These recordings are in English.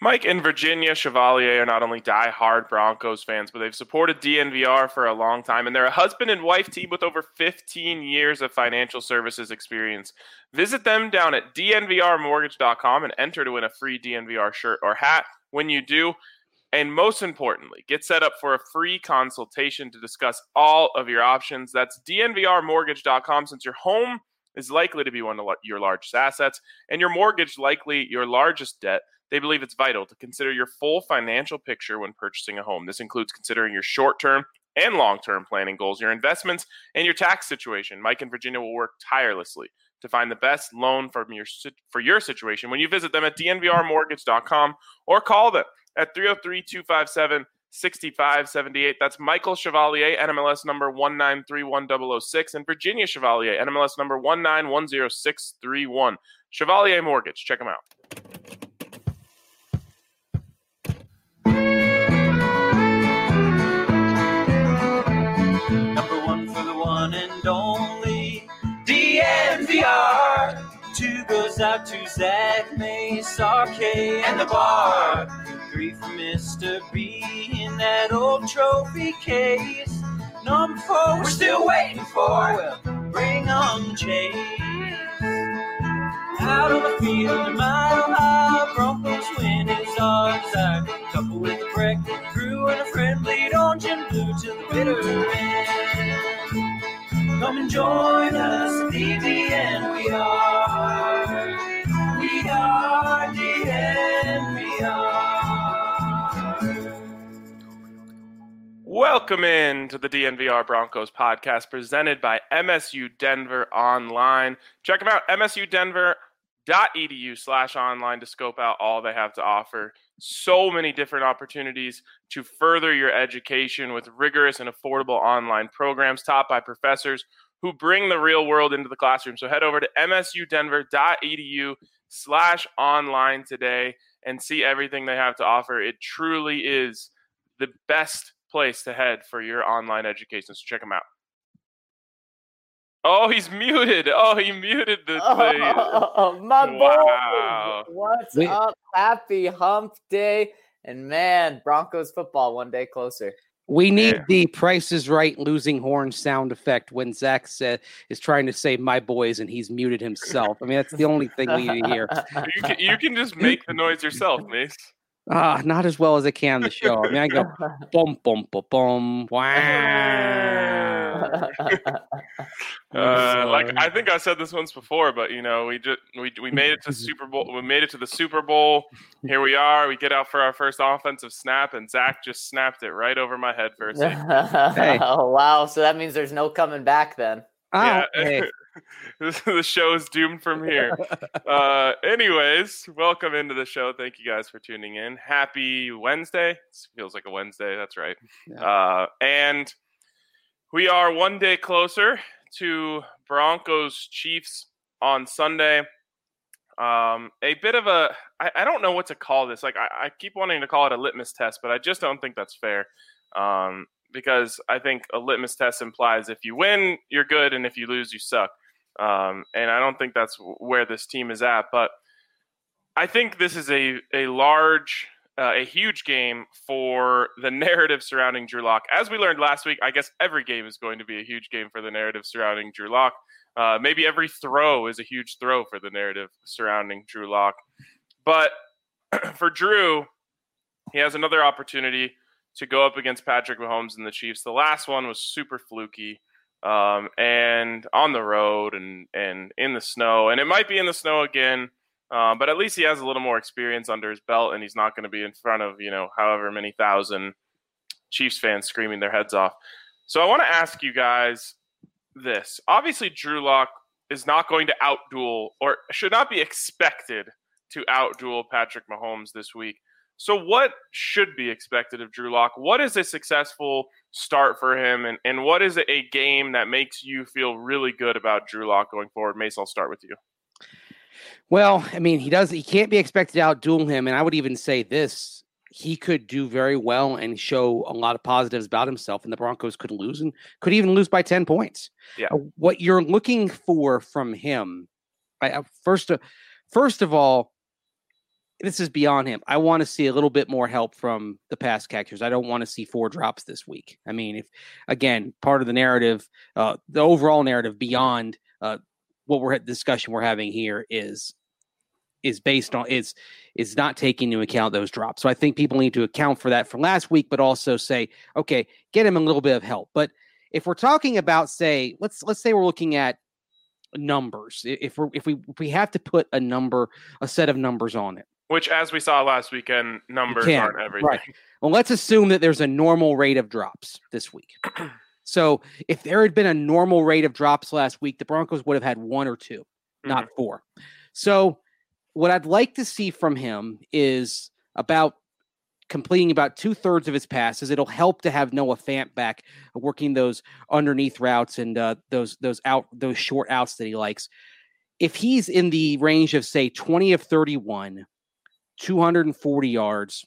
Mike and Virginia Chevalier are not only die-hard Broncos fans, but they've supported DNVR for a long time, and they're a husband and wife team with over 15 years of financial services experience. Visit them down at dnvrmortgage.com and enter to win a free DNVR shirt or hat when you do. And most importantly, get set up for a free consultation to discuss all of your options. That's dnvrmortgage.com. Since your home is likely to be one of your largest assets and your mortgage likely your largest debt, they believe it's vital to consider your full financial picture when purchasing a home. This includes considering your short-term and long-term planning goals, your investments, and your tax situation. Mike and Virginia will work tirelessly to find the best loan for your situation when you visit them at dnvrmortgage.com or call them at 303-257-6578. That's Michael Chevalier, NMLS number 1931006, and Virginia Chevalier, NMLS number 1910631. Chevalier Mortgage. Check them out. Number one for the one and only DNVR. Two goes out to Zach Mace, RK, and the bar. Three for Mr. B in that old trophy case. Number four, we're still waiting for. Well, bring on Chase. Out on the field, a mile high, Broncos win is our desire. Couple with a breakfast crew and a friendly orange and blue till the bitter end. Come and join us at DNVR. We are DNVR. Welcome in to the DNVR Broncos podcast presented by MSU Denver Online. Check them out, msudenver.edu/online to scope out all they have to offer. So many different opportunities to further your education with rigorous and affordable online programs taught by professors who bring the real world into the classroom. So head over to msudenver.edu/online today and see everything they have to offer. It truly is the best place to head for your online education. So check them out. Oh, he's muted. Oh, he muted the my wow. boy. What's up? Happy hump day. And man, Broncos football one day closer. We need the Price is Right losing horn sound effect when Zach is trying to say my boys and he's muted himself. I mean, that's the only thing we need to hear. You can just make the noise yourself, Mace. Not as well as I can on the show. I mean, I go boom, boom, boom, boom, wow. Like I think I said this once before, but you know, we made it to Super Bowl. We made it to the Super Bowl. Here we are. We get out for our first offensive snap, and Zach just snapped it right over my head for a second. Hey. Oh wow! So that means there's no coming back then. Yeah. Hey. The show is doomed from here. Anyways, welcome into the show. Thank you guys for tuning in. Happy Wednesday. This feels like a Wednesday. That's right. Yeah. And we are one day closer to Broncos Chiefs on Sunday. A bit of a, I don't know what to call this. Like I keep wanting to call it a litmus test, but I just don't think that's fair. Because I think a litmus test implies if you win, you're good, and if you lose, you suck. And I don't think that's where this team is at. But I think this is a huge game for the narrative surrounding Drew Lock. As we learned last week, I guess every game is going to be a huge game for the narrative surrounding Drew Lock. Maybe every throw is a huge throw for the narrative surrounding Drew Lock. But for Drew, he has another opportunity to go up against Patrick Mahomes and the Chiefs. The last one was super fluky and on the road and in the snow. And it might be in the snow again, but at least he has a little more experience under his belt, and he's not going to be in front of, however many thousand Chiefs fans screaming their heads off. So I want to ask you guys this. Obviously, Drew Lock is not going to outduel or should not be expected to outduel Patrick Mahomes this week. So what should be expected of Drew Lock? What is a successful start for him? And what is a game that makes you feel really good about Drew Lock going forward? Mace, I'll start with you. Well, I mean, he can't be expected to outduel him. And I would even say this, he could do very well and show a lot of positives about himself, and the Broncos could lose and could even lose by 10 points. Yeah. What you're looking for from him, first of all, this is beyond him. I want to see a little bit more help from the pass catchers. I don't want to see 4 drops this week. I mean, if again, part of the narrative, the overall narrative beyond what discussion we're having here is based on is not taking into account those drops. So I think people need to account for that from last week, but also say, okay, get him a little bit of help. But if we're talking about, say, let's say we're looking at numbers, if we have to put a set of numbers on it, which, as we saw last weekend, numbers aren't everything. Right. Well, let's assume that there's a normal rate of drops this week. So if there had been a normal rate of drops last week, the Broncos would have had 1 or 2, not 4. So what I'd like to see from him is about completing about 2/3 of his passes. It'll help to have Noah Fant back working those underneath routes and those short outs that he likes. If he's in the range of, say, 20 of 31, 240 yards,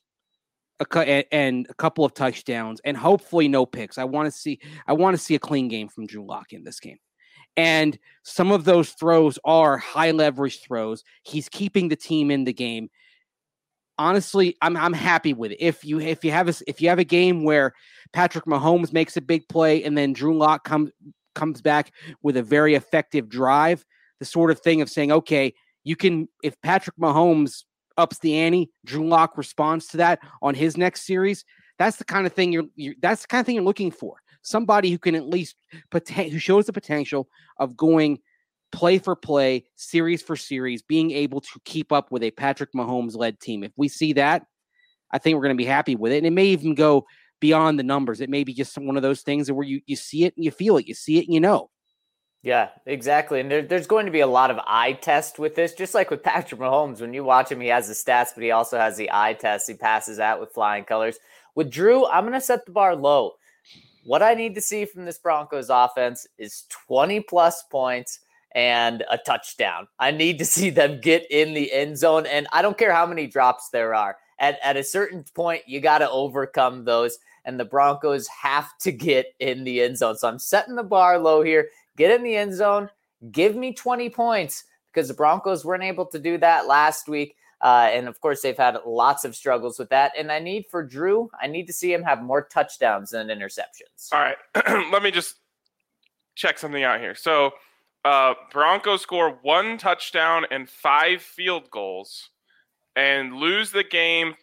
and a couple of touchdowns, and hopefully no picks. I want to see a clean game from Drew Lock in this game. And some of those throws are high leverage throws. He's keeping the team in the game. Honestly, I'm happy with it. If you have a game where Patrick Mahomes makes a big play and then Drew Lock comes back with a very effective drive, the sort of thing of saying, okay, if Patrick Mahomes ups the ante, Drew Lock responds to that on his next series. That's the kind of thing you're looking for. Somebody who can at least who shows the potential of going play for play, series for series, being able to keep up with a Patrick Mahomes led team. If we see that, I think we're going to be happy with it. And it may even go beyond the numbers. It may be just one of those things where you see it and you feel it. You see it and you know. Yeah, exactly. And there's going to be a lot of eye test with this, just like with Patrick Mahomes. When you watch him, he has the stats, but he also has the eye test. He passes out with flying colors. With Drew, I'm going to set the bar low. What I need to see from this Broncos offense is 20-plus points and a touchdown. I need to see them get in the end zone, and I don't care how many drops there are. At a certain point, you got to overcome those, and the Broncos have to get in the end zone. So I'm setting the bar low here. Get in the end zone. Give me 20 points because the Broncos weren't able to do that last week. And, of course, they've had lots of struggles with that. And I need to see him have more touchdowns than interceptions. All right. Let me just check something out here. So Broncos score 1 touchdown and 5 field goals and lose the game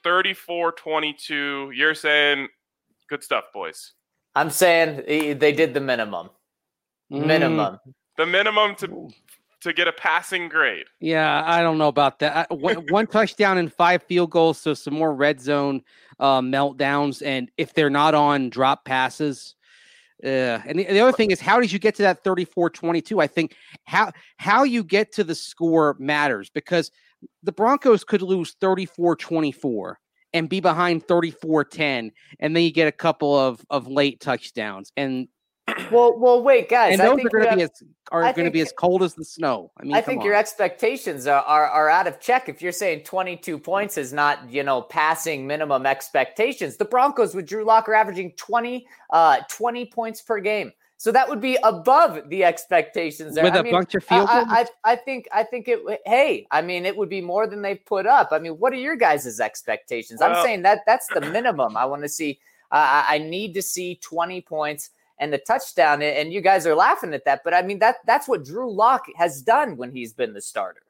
34-22. You're saying good stuff, boys. I'm saying they did the minimum. Minimum. The minimum to get a passing grade. Yeah, I don't know about that. 1 touchdown and 5 field goals, so some more red zone meltdowns. And if they're not on drop passes, and the other thing is, how did you get to that 34-22? I think how you get to the score matters because the Broncos could lose 34-24 and be behind 34-10, and then you get a couple of late touchdowns. And well, wait, guys. And those are going to be as cold as the snow. I mean, I think your expectations are out of check. If you're saying 22 points is not, passing minimum expectations, the Broncos with Drew Lock are averaging 20 points per game. So that would be above the expectations there. With a bunch of field goals? I think it would be more than they've put up. I mean, what are your guys' expectations? Well, I'm saying that's the minimum. I want to see, I need to see 20 points and the touchdown, and you guys are laughing at that, but I mean that's what Drew Lock has done when he's been the starter.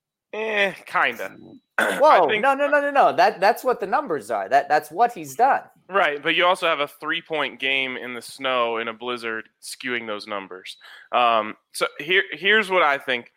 Kinda. Whoa, no. That's what the numbers are. That's what he's done. Right, but you also have a 3-point game in the snow in a blizzard skewing those numbers. So here's what I think.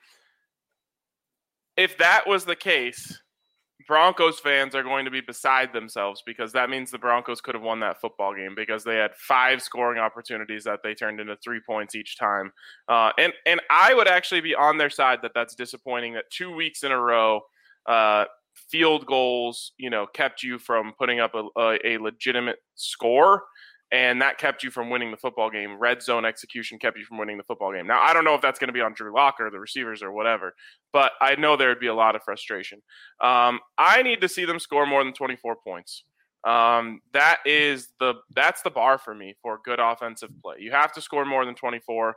If that was the case, Broncos fans are going to be beside themselves because that means the Broncos could have won that football game because they had 5 scoring opportunities that they turned into 3 points each time. And I would actually be on their side that's disappointing that 2 weeks in a row field goals, kept you from putting up a legitimate score. And that kept you from winning the football game. Red zone execution kept you from winning the football game. Now, I don't know if that's going to be on Drew Lock or the receivers or whatever, but I know there would be a lot of frustration. I need to see them score more than 24 points. That's the bar for me for good offensive play. You have to score more than 24.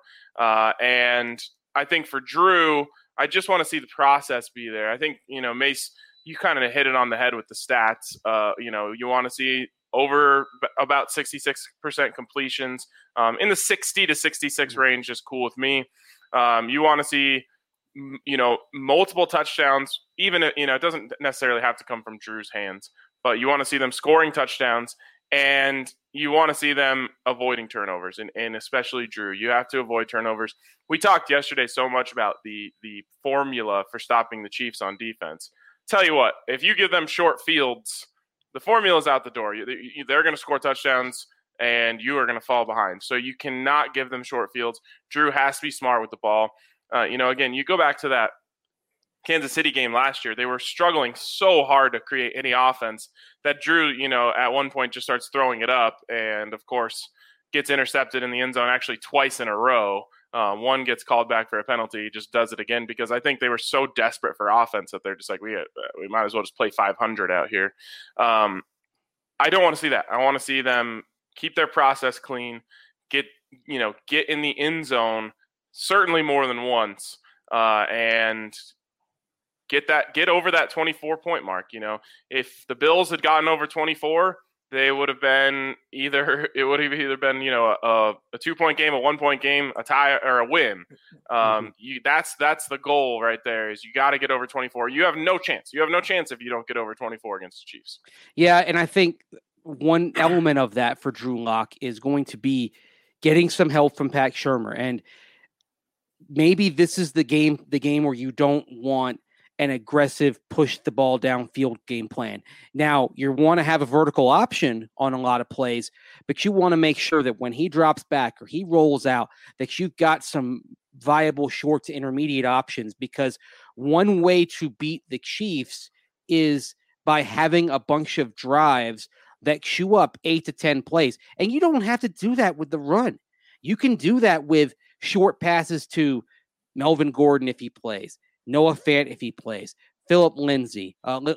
And I think for Drew, I just want to see the process be there. I think, Mace you kind of hit it on the head with the stats. You want to see over about 66% completions. In the 60 to 66 range is cool with me. You want to see, multiple touchdowns, even, it doesn't necessarily have to come from Drew's hands, but you want to see them scoring touchdowns, and you want to see them avoiding turnovers, and especially Drew. You have to avoid turnovers. We talked yesterday so much about the formula for stopping the Chiefs on defense. Tell you what, if you give them short fields, the formula's out the door. They're going to score touchdowns, and you are going to fall behind. So you cannot give them short fields. Drew has to be smart with the ball. Again, you go back to that Kansas City game last year. They were struggling so hard to create any offense that Drew, at one point just starts throwing it up, and of course gets intercepted in the end zone actually twice in a row. One gets called back for a penalty. He just does it again because I think they were so desperate for offense that they're just like, we might as well just play 500 out here. I don't want to see that. I want to see them keep their process clean, get in the end zone certainly more than once, and get over that 24-point mark. If the Bills had gotten over 24, they would have been either a 2-point game, a 1-point game, a tie, or a win. That's the goal right there. Is you got to get over 24. You have no chance. You have no chance if you don't get over 24 against the Chiefs. Yeah, and I think one element of that for Drew Lock is going to be getting some help from Pat Shurmur, and maybe this is the game where you don't want an aggressive push the ball downfield game plan. Now, you want to have a vertical option on a lot of plays, but you want to make sure that when he drops back or he rolls out, that you've got some viable short to intermediate options, because one way to beat the Chiefs is by having a bunch of drives that chew up 8 to 10 plays. And you don't have to do that with the run. You can do that with short passes to Melvin Gordon if he plays, Noah Fant if he plays, Phillip Lindsay. I don't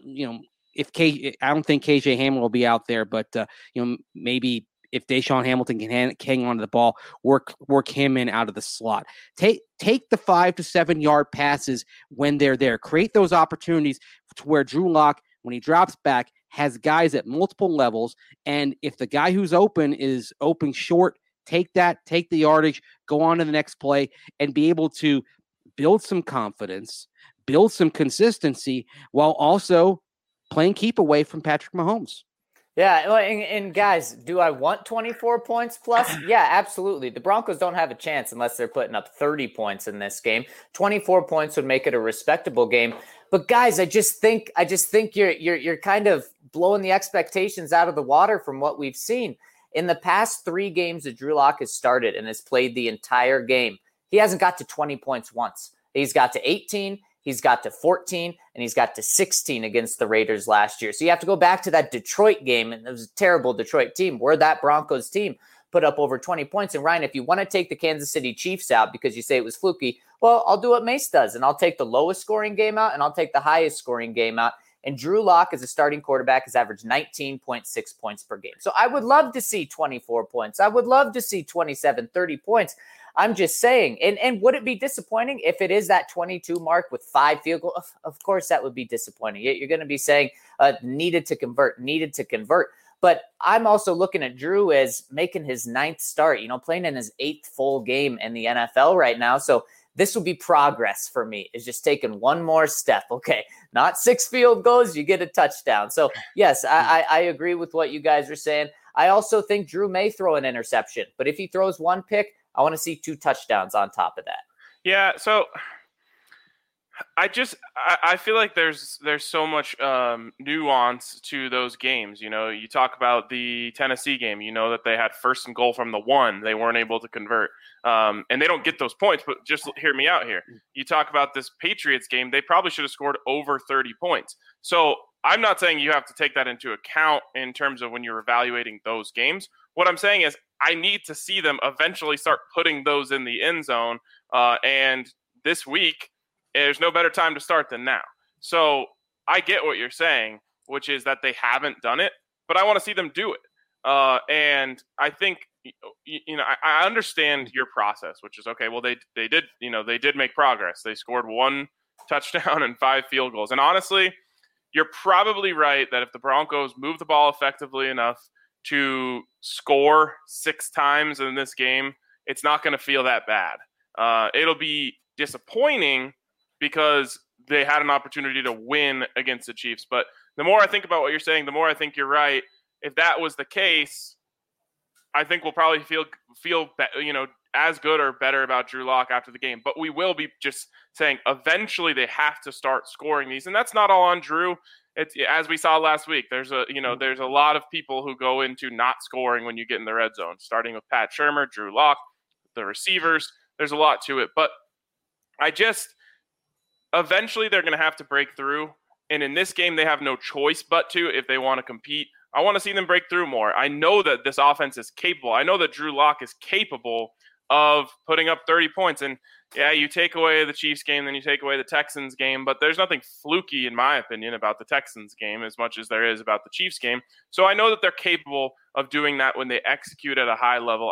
think KJ Hamler will be out there, but maybe if Deshaun Hamilton can hang on to the ball, work him in out of the slot. Take the 5 to 7 yard passes when they're there. Create those opportunities to where Drew Lock, when he drops back, has guys at multiple levels. And if the guy who's open is open short, take the yardage, go on to the next play, and be able to build some confidence, build some consistency, while also playing keep away from Patrick Mahomes. Yeah, and guys, do I want 24 points plus? Yeah, absolutely. The Broncos don't have a chance unless they're putting up 30 points in this game. 24 points would make it a respectable game. But guys, I just think you're kind of blowing the expectations out of the water from what we've seen. In the past 3 games that Drew Lock has started and has played the entire game, he hasn't got to 20 points once. He's got to 18, he's got to 14, and he's got to 16 against the Raiders last year. So you have to go back to that Detroit game, and it was a terrible Detroit team, where that Broncos team put up over 20 points. And Ryan, if you want to take the Kansas City Chiefs out because you say it was fluky, well, I'll do what Mace does, and I'll take the lowest scoring game out, and I'll take the highest scoring game out. And Drew Lock, as a starting quarterback, has averaged 19.6 points per game. So I would love to see 24 points. I would love to see 27, 30 points. I'm just saying. And would it be disappointing if it is that 22 mark with 5 field goals? Of course, that would be disappointing. You're going to be saying needed to convert. But I'm also looking at Drew as making his 9th start, playing in his 8th full game in the NFL right now. So this will be progress for me, is just taking one more step. Okay, not 6 field goals, you get a touchdown. So, yes, I agree with what you guys are saying. I also think Drew may throw an interception. But if he throws 1 pick, I want to see 2 touchdowns on top of that. Yeah, so I feel like there's so much nuance to those games. You talk about the Tennessee game, that they had 1st and goal from the 1. They weren't able to convert. And they don't get those points, but just hear me out here. You talk about this Patriots game, they probably should have scored over 30 points. So I'm not saying you have to take that into account in terms of when you're evaluating those games. What I'm saying is I need to see them eventually start putting those in the end zone. And this week, there's no better time to start than now. So I get what you're saying, which is that they haven't done it, but I want to see them do it. And I think, I understand your process, which is, okay, well, they did make progress. They scored 1 touchdown and 5 field goals. And honestly, you're probably right that if the Broncos move the ball effectively enough to score 6 times in this game, it's not going to feel that bad. It'll be disappointing because they had an opportunity to win against the Chiefs. But the more I think about what you're saying, the more I think you're right. If that was the case, I think we'll probably feel as good or better about Drew Lock after the game. But we will be just saying eventually they have to start scoring these, and that's not all on Drew. It's, as we saw last week, there's a lot of people who go into not scoring when you get in the red zone, starting with Pat Shurmur, Drew Lock, the receivers. There's a lot to it, but eventually they're going to have to break through. And in this game, they have no choice but to, if they want to compete. I want to see them break through more. I know that this offense is capable. I know that Drew Lock is capable of putting up 30 points. And yeah, you take away the Chiefs game, then you take away the Texans game, but there's nothing fluky, in my opinion, about the Texans game as much as there is about the Chiefs game. So I know that they're capable of doing that when they execute at a high level.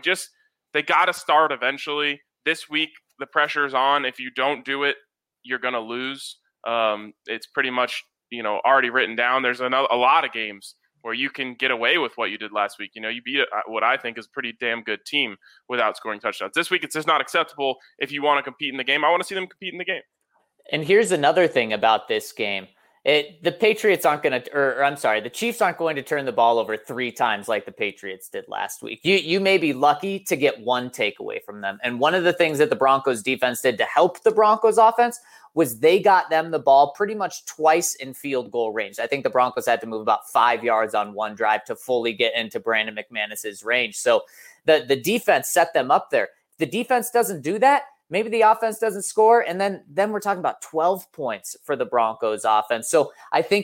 They got to start eventually. This week, the pressure's on. If you don't do it, you're going to lose. It's pretty much, already written down. There's a lot of games where you can get away with what you did last week. You beat what I think is a pretty damn good team without scoring touchdowns. This week, it's just not acceptable if you want to compete in the game. I want to see them compete in the game. And here's another thing about this game. The Patriots aren't going to, the Chiefs aren't going to turn the ball over 3 times like the Patriots did last week. You may be lucky to get 1 takeaway from them. And one of the things that the Broncos defense did to help the Broncos offense was they got them the ball pretty much twice in field goal range. I think the Broncos had to move about 5 yards on one drive to fully get into Brandon McManus's range. So the defense set them up there. If the defense doesn't do that, maybe the offense doesn't score, and then we're talking about 12 points for the Broncos offense. So I think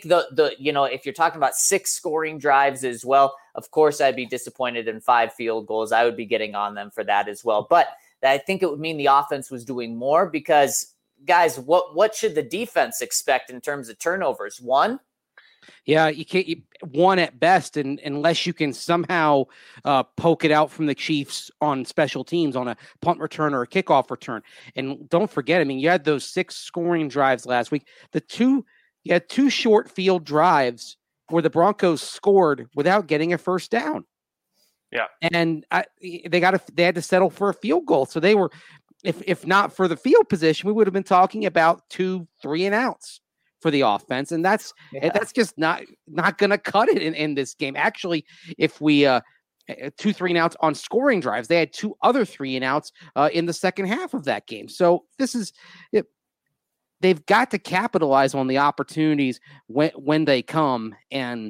if you're talking about 6 scoring drives as well, of course I'd be disappointed in 5 field goals. I would be getting on them for that as well. But I think it would mean the offense was doing more because, guys, what should the defense expect in terms of turnovers? 1? Yeah, you can't 1 at best, and unless you can somehow poke it out from the Chiefs on special teams on a punt return or a kickoff return. And don't forget, you had those 6 scoring drives last week. You had 2 short field drives where the Broncos scored without getting a first down. Yeah, and they had to settle for a field goal. So they were, if not for the field position, we would have been talking about 2 3-and-outs for the offense, and that's just not going to cut it in this game. Actually, if we 2 3-and-outs on scoring drives, they had 2 other 3-and-outs in the second half of that game. So this is it. They've got to capitalize on the opportunities when they come, and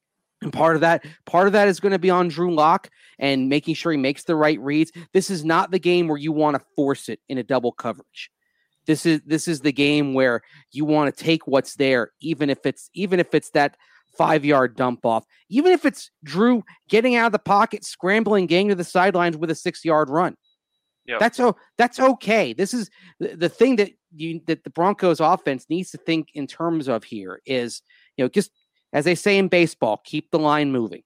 part of that is going to be on Drew Lock and making sure he makes the right reads. This is not the game where you want to force it in a double coverage. This is the game where you want to take what's there, even if it's that 5-yard dump off, even if it's Drew getting out of the pocket, scrambling, getting to the sidelines with a 6-yard run. Yep. That's okay. This is the thing that the Broncos offense needs to think in terms of here is, just as they say in baseball, keep the line moving.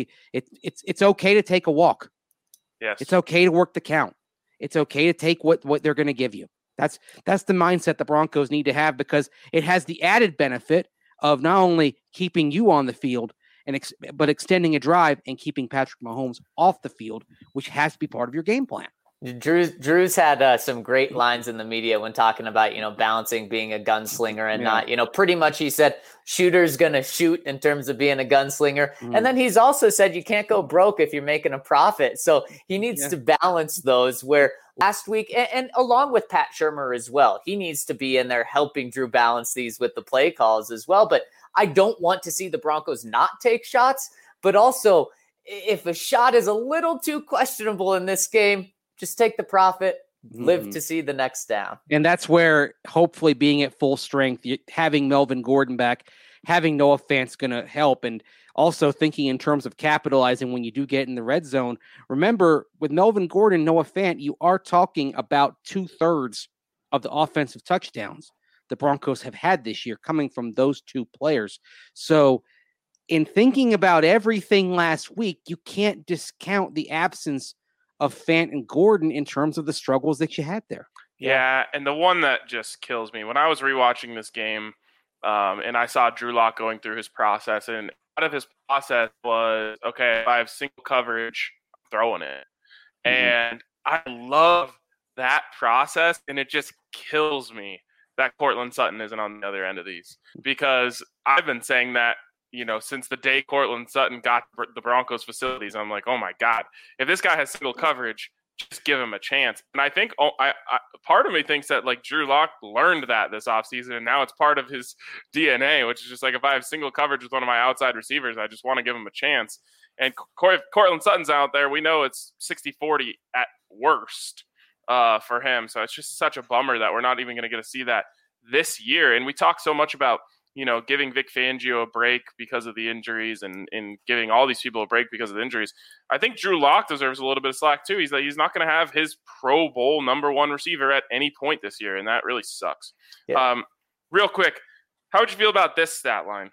It's okay to take a walk. Yes. It's okay to work the count. It's okay to take what they're going to give you. That's the mindset the Broncos need to have, because it has the added benefit of not only keeping you on the field but extending a drive and keeping Patrick Mahomes off the field, which has to be part of your game plan. Drew's had some great lines in the media when talking about, balancing being a gunslinger and not, pretty much he said shooter's going to shoot in terms of being a gunslinger. And then he's also said you can't go broke if you're making a profit. So he needs to balance those, where last week, and along with Pat Shurmur as well, he needs to be in there helping Drew balance these with the play calls as well. But I don't want to see the Broncos not take shots, but also if a shot is a little too questionable in this game, just take the profit, live to see the next down. And that's where hopefully being at full strength, having Melvin Gordon back, having Noah Fant's going to help. And also thinking in terms of capitalizing when you do get in the red zone. Remember, with Melvin Gordon, Noah Fant, you are talking about 2/3 of the offensive touchdowns the Broncos have had this year coming from those 2 players. So in thinking about everything last week, you can't discount the absence of Fant and Gordon in terms of the struggles that you had there. Yeah, and the one that just kills me, when I was rewatching this game, And I saw Drew Lock going through his process, and out of his process was, okay, if I have single coverage, I'm throwing it. Mhm. And I love that process, and it just kills me that Cortland Sutton isn't on the other end of these, because I've been saying that, since the day Cortland Sutton got the Broncos facilities. I'm like, oh my God, if this guy has single coverage, just give him a chance. And I think part of me thinks that like Drew Lock learned that this offseason, and now it's part of his DNA, which is just like, if I have single coverage with one of my outside receivers, I just want to give him a chance. And if Cortland Sutton's out there, we know it's 60-40 at worst for him. So it's just such a bummer that we're not even going to get to see that this year. And we talk so much about, giving Vic Fangio a break because of the injuries and giving all these people a break because of the injuries. I think Drew Lock deserves a little bit of slack too. He's not going to have his Pro Bowl number one receiver at any point this year, and that really sucks. Yeah. Real quick, how would you feel about this stat line?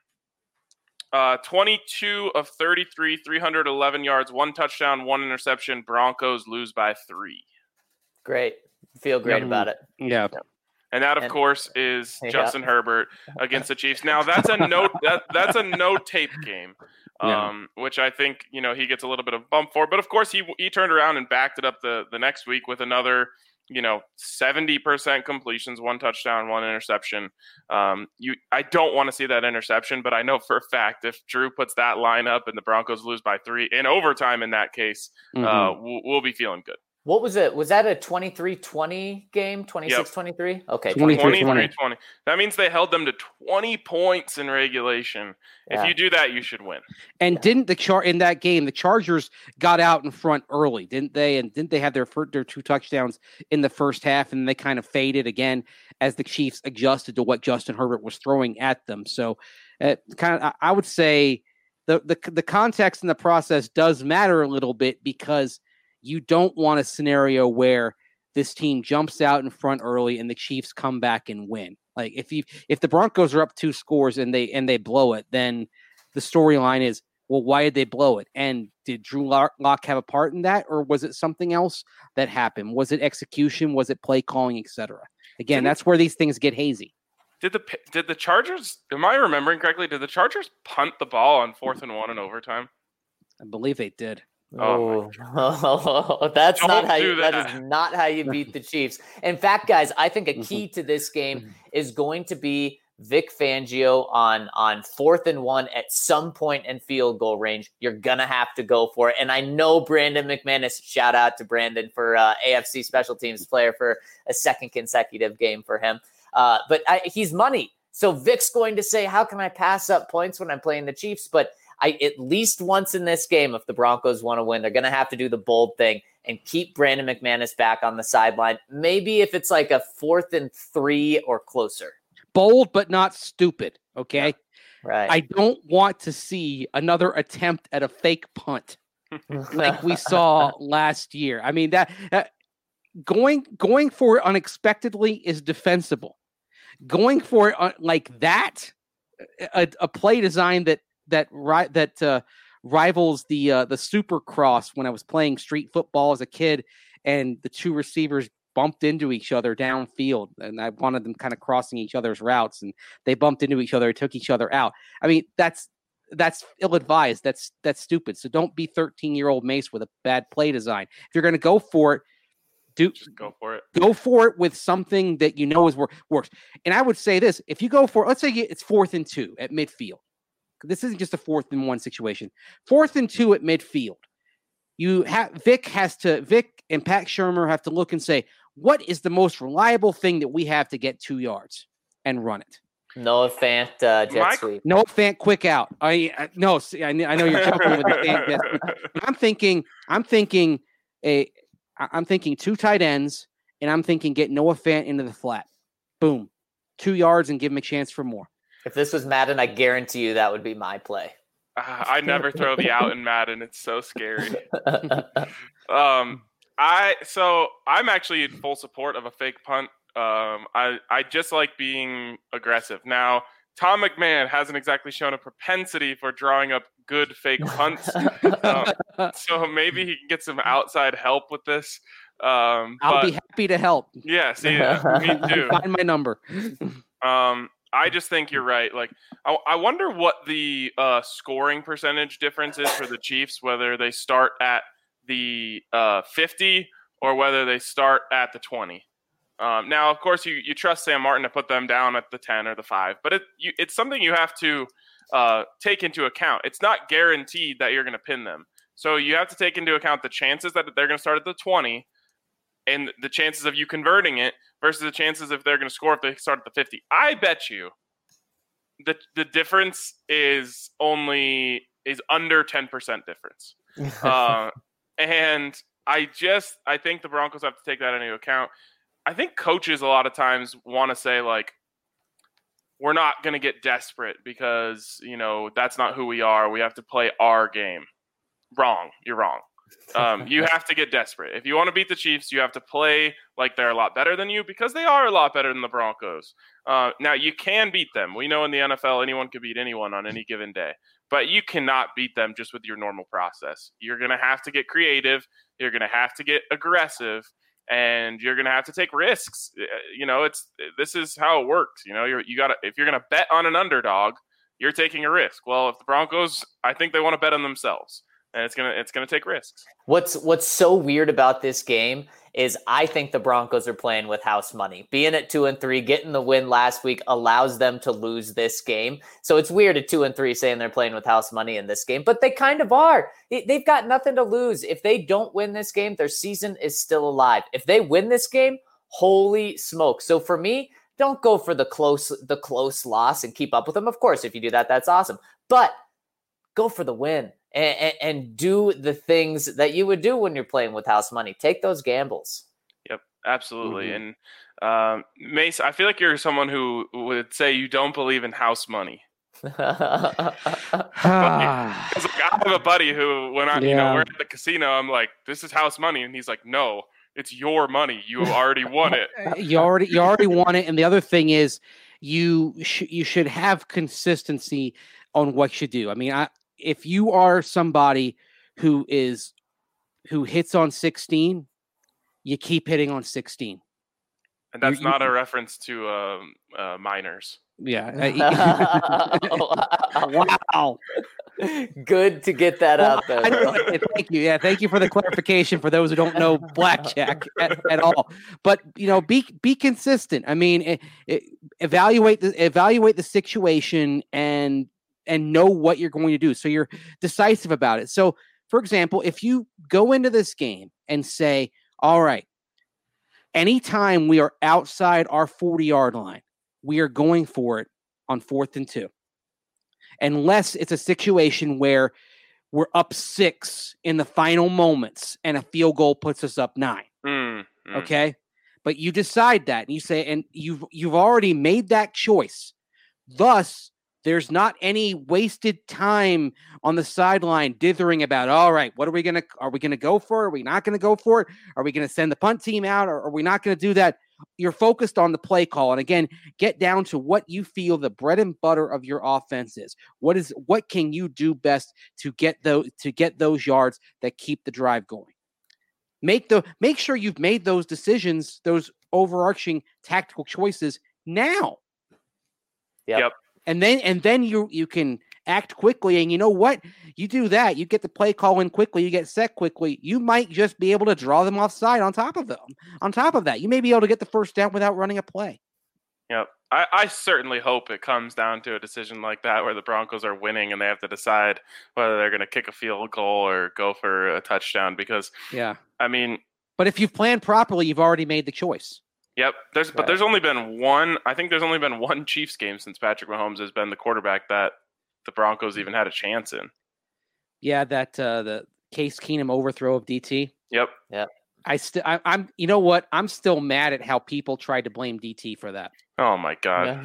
22 of 33, 311 yards, 1 touchdown, 1 interception. Broncos lose by 3. Great. Feel great about it. Yeah. And that, of course, is Justin Herbert against the Chiefs. Now, that's a that's a no tape game, which I think he gets a little bit of bump for. But of course, he turned around and backed it up the next week with another 70% completions, 1 touchdown, 1 interception. I don't want to see that interception, but I know for a fact if Drew puts that line up and the Broncos lose by 3 in overtime, in that case, we'll be feeling good. What was it? Was that a 23-20 game? 26-23? Okay. 23-20. That means they held them to 20 points in regulation. Yeah. If you do that, you should win. And didn't in that game, the Chargers got out in front early, didn't they? And didn't they have their 2 touchdowns in the first half, and they kind of faded again as the Chiefs adjusted to what Justin Herbert was throwing at them? So I would say the context and the process does matter a little bit, because you don't want a scenario where this team jumps out in front early and the Chiefs come back and win. Like if the Broncos are up 2 scores and they blow it, then the storyline is, well, why did they blow it? And did Drew Lock have a part in that, or was it something else that happened? Was it execution? Was it play calling, etc.? Again, that's where these things get hazy. Did the Chargers? Am I remembering correctly? Did the Chargers punt the ball on 4th and 1 in overtime? I believe they did. That's not how you. That is not how you beat the Chiefs. In fact, guys, I think a key to this game is going to be Vic Fangio on 4th and 1 at some point in field goal range. You're gonna have to go for it. And I know Brandon McManus. Shout out to Brandon for AFC Special Teams player for a 2nd consecutive game for him. But he's money, so Vic's going to say, "How can I pass up points when I'm playing the Chiefs?" But at least once in this game, if the Broncos want to win, they're going to have to do the bold thing and keep Brandon McManus back on the sideline. Maybe if it's like a 4th and 3 or closer. Bold, but not stupid. Okay. Yeah. Right. I don't want to see another attempt at a fake punt like we saw last year. I mean, that going for it unexpectedly is defensible. Going for it like that, a play design that rivals the Supercross when I was playing street football as a kid, and the 2 receivers bumped into each other downfield, and I wanted them kind of crossing each other's routes, and they bumped into each other and took each other out. I mean, that's ill-advised. That's stupid. So don't be 13-year-old Mace with a bad play design. If you're going to go for it, just go for it. Go for it with something that is works. And I would say this: if you go for, let's say it's 4th and 2 at midfield. This isn't just a 4th and 1 situation. 4th and 2 at midfield. Vic and Pat Shurmur have to look and say, what is the most reliable thing that we have to get 2 yards and run it? Noah Fant jet sweep. Noah Fant quick out. I know you're jumping with the Fant jet sweep. I'm thinking 2 tight ends, and I'm thinking get Noah Fant into the flat. Boom. 2 yards and give him a chance for more. If this was Madden, I guarantee you that would be my play. I never throw the out in Madden. It's so scary. I'm actually in full support of a fake punt. I just like being aggressive. Now, Tom McMahon hasn't exactly shown a propensity for drawing up good fake punts. So maybe he can get some outside help with this. I'll be happy to help. Yeah, see, me too. Find my number. I just think you're right. Like, I wonder what the scoring percentage difference is for the Chiefs, whether they start at the 50 or whether they start at the 20. Now, of course, you trust Sam Martin to put them down at the 10 or the 5, but it's something you have to take into account. It's not guaranteed that you're going to pin them. So you have to take into account the chances that they're going to start at the 20 and the chances of you converting it versus the chances if they're going to score if they start at the 50. I bet you the difference is under 10% difference. And I think the Broncos have to take that into account. I think coaches a lot of times want to say, like, we're not going to get desperate because, that's not who we are. We have to play our game. Wrong. You're wrong. You have to get desperate. If you want to beat the Chiefs, you have to play like they're a lot better than you because they are a lot better than the Broncos. Now, you can beat them. We know in the NFL, anyone can beat anyone on any given day. But you cannot beat them just with your normal process. You're going to have to get creative. You're going to have to get aggressive. And you're going to have to take risks. This is how it works. If you're going to bet on an underdog, you're taking a risk. Well, if the Broncos, I think they want to bet on themselves. And it's gonna take risks. What's so weird about this game is I think the Broncos are playing with house money. Being at 2-3, getting the win last week allows them to lose this game. So it's weird at 2-3 saying they're playing with house money in this game, but they kind of are. They've got nothing to lose. If they don't win this game, their season is still alive. If they win this game, holy smoke. So for me, don't go for the close loss and keep up with them. Of course, if you do that, that's awesome. But go for the win. And do the things that you would do when you're playing with house money. Take those gambles. Yep, absolutely. Mm-hmm. And Mace, I feel like you're someone who would say you don't believe in house money. I have a buddy who, when we're at the casino, I'm like, "This is house money," and he's like, "No, it's your money. You already won it. You already won it." And the other thing is, you should have consistency on what you do. I mean, if you are somebody who hits on 16, you keep hitting on 16. And that's not a reference to minors. Yeah. Wow. Good to get that out there. Thank you. Yeah, thank you for the clarification for those who don't know blackjack at all. But be consistent. I mean, evaluate the situation and know what you're going to do. So you're decisive about it. So, for example, if you go into this game and say, all right, anytime we are outside our 40-yard line, we are going for it on 4th and 2. Unless it's a situation where we're up 6 in the final moments and a field goal puts us up 9. Okay? But you decide that and you say, and you've already made that choice. Thus, there's not any wasted time on the sideline dithering about, all right, are we going to go for it? Are we not going to go for it? Are we going to send the punt team out? Or are we not going to do that? You're focused on the play call. And again, get down to what you feel the bread and butter of your offense is. What can you do best to get those yards that keep the drive going? Make sure you've made those decisions, those overarching tactical choices now. Yep. And then you can act quickly, and you know what? You do that, you get the play call in quickly, you get set quickly. You might just be able to draw them offside on top of them. On top of that, you may be able to get the first down without running a play. Yep. I certainly hope it comes down to a decision like that where the Broncos are winning and they have to decide whether they're going to kick a field goal or go for a touchdown because, I mean... But if you've planned properly, you've already made the choice. Yep. There's only been one. I think there's only been one Chiefs game since Patrick Mahomes has been the quarterback that the Broncos even had a chance in. Yeah, that the Case Keenum overthrow of DT. Yep. I'm. You know what? I'm still mad at how people tried to blame DT for that. Oh my God!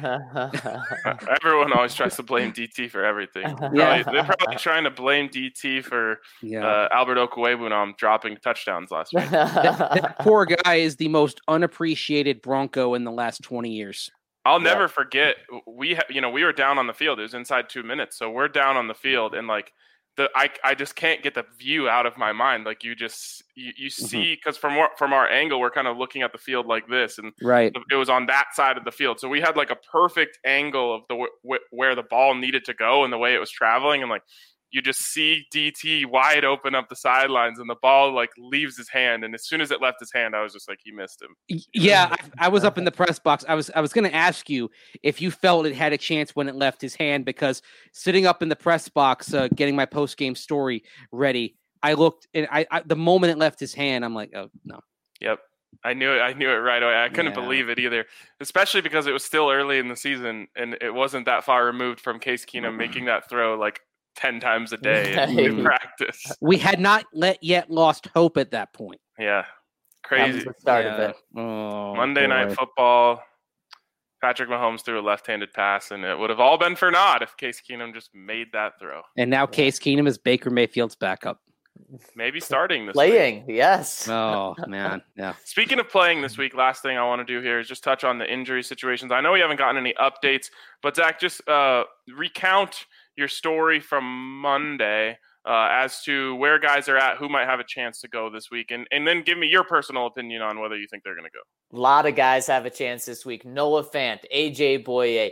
Everyone always tries to blame DT for everything. They're probably trying to blame DT for Albert Okwuegbunam dropping touchdowns last week. That poor guy is the most unappreciated Bronco in the last 20 years. I'll never forget. We were down on the field. It was inside 2 minutes, so we're down on the field, and like I just can't get the view out of my mind. Like you see, because from our angle, we're kind of looking at the field like this, and right, it was on that side of the field. So we had like a perfect angle of where the ball needed to go and the way it was traveling, and like you just see DT wide open up the sidelines, and the ball like leaves his hand. And as soon as it left his hand, I was just like, he missed him. Yeah, I was up in the press box. I was going to ask you if you felt it had a chance when it left his hand, because sitting up in the press box, getting my post game story ready, I looked and the moment it left his hand, I'm like, oh no. Yep. I knew it right away. I couldn't believe it either, especially because it was still early in the season and it wasn't that far removed from Case Keenum making that throw like 10 times a day in practice. We had not yet lost hope at that point. Yeah. Crazy. That was the start of it. Oh, Monday Night Football. Patrick Mahomes threw a left-handed pass, and it would have all been for naught if Case Keenum just made that throw. And now Case Keenum is Baker Mayfield's backup. Maybe starting this week. Week. Yes. Oh, man. Yeah. Speaking of playing this week, last thing I want to do here is just touch on the injury situations. I know we haven't gotten any updates, but Zach, just recount your story from Monday as to where guys are at, who might have a chance to go this week, and then give me your personal opinion on whether you think they're going to go. A lot of guys have a chance this week. Noah Fant, AJ Boye,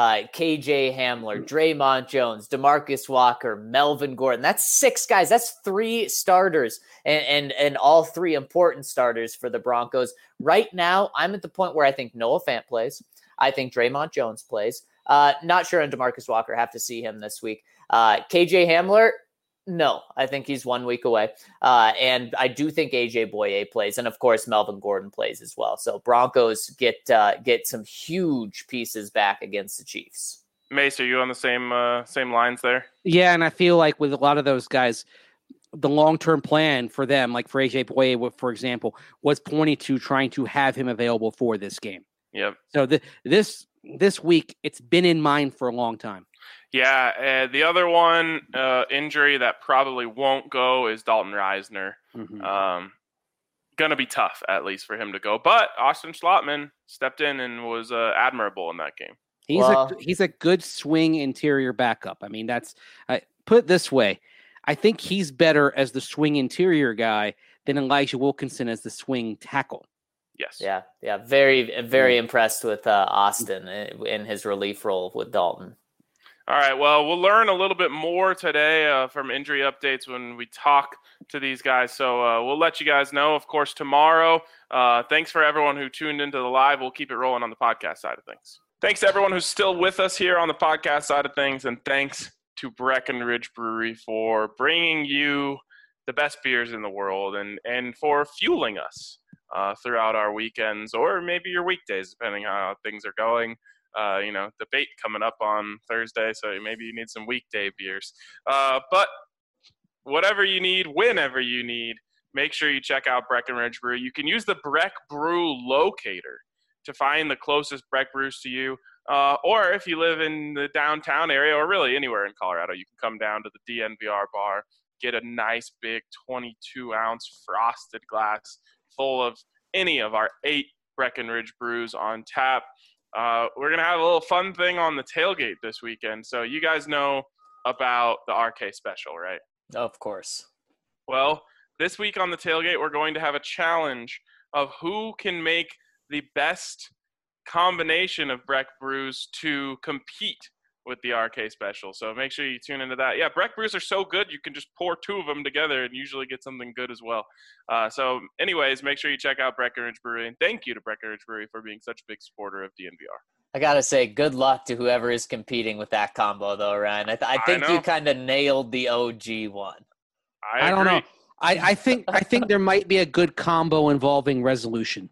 KJ Hamler, Draymond Jones, DeMarcus Walker, Melvin Gordon. That's 6 guys. That's 3 starters and all 3 important starters for the Broncos. Right now, I'm at the point where I think Noah Fant plays. I think Draymond Jones plays. Not sure on DeMarcus Walker. Have to see him this week. KJ Hamler, no. I think he's 1 week away. And I do think AJ Boye plays. And, of course, Melvin Gordon plays as well. So Broncos get some huge pieces back against the Chiefs. Mace, are you on the same lines there? Yeah, and I feel like with a lot of those guys, the long-term plan for them, like for AJ Boye, for example, was pointing to trying to have him available for this game. Yep. So this week, it's been in mind for a long time. Yeah, the other one injury that probably won't go is Dalton Reisner. Mm-hmm. Going to be tough, at least, for him to go. But Austin Schlottman stepped in and was admirable in that game. He's a good swing interior backup. I mean, that's put it this way. I think he's better as the swing interior guy than Elijah Wilkinson as the swing tackle. Yes. Yeah. Very, very impressed with Austin in his relief role with Dalton. All right. Well, we'll learn a little bit more today from injury updates when we talk to these guys. So we'll let you guys know, of course, tomorrow. Thanks for everyone who tuned into the live. We'll keep it rolling on the podcast side of things. Thanks to everyone who's still with us here on the podcast side of things. And thanks to Breckenridge Brewery for bringing you the best beers in the world and for fueling us throughout our weekends or maybe your weekdays, depending on how things are going. Debate coming up on Thursday, so maybe you need some weekday beers. But whatever you need, whenever you need, make sure you check out Breckenridge Brew. You can use the Breck Brew locator to find the closest Breck Brews to you. Or if you live in the downtown area or really anywhere in Colorado, you can come down to the DNVR bar, get a nice big 22-ounce frosted glass full of any of our 8 Breckenridge Brews on tap. We're going to have a little fun thing on the tailgate this weekend. So you guys know about the RK special, right? Of course. Well, this week on the tailgate, we're going to have a challenge of who can make the best combination of Breck Brews to compete with the RK special. So make sure you tune into that. Yeah, Breck Brews are so good, you can just pour 2 of them together and usually get something good as well. So anyways, make sure you check out Breckenridge Brewery. And thank you to Breckenridge Brewery for being such a big supporter of DNVR. I got to say, good luck to whoever is competing with that combo, though, Ryan. I think you kind of nailed the OG one. I don't know. I think there might be a good combo involving resolution.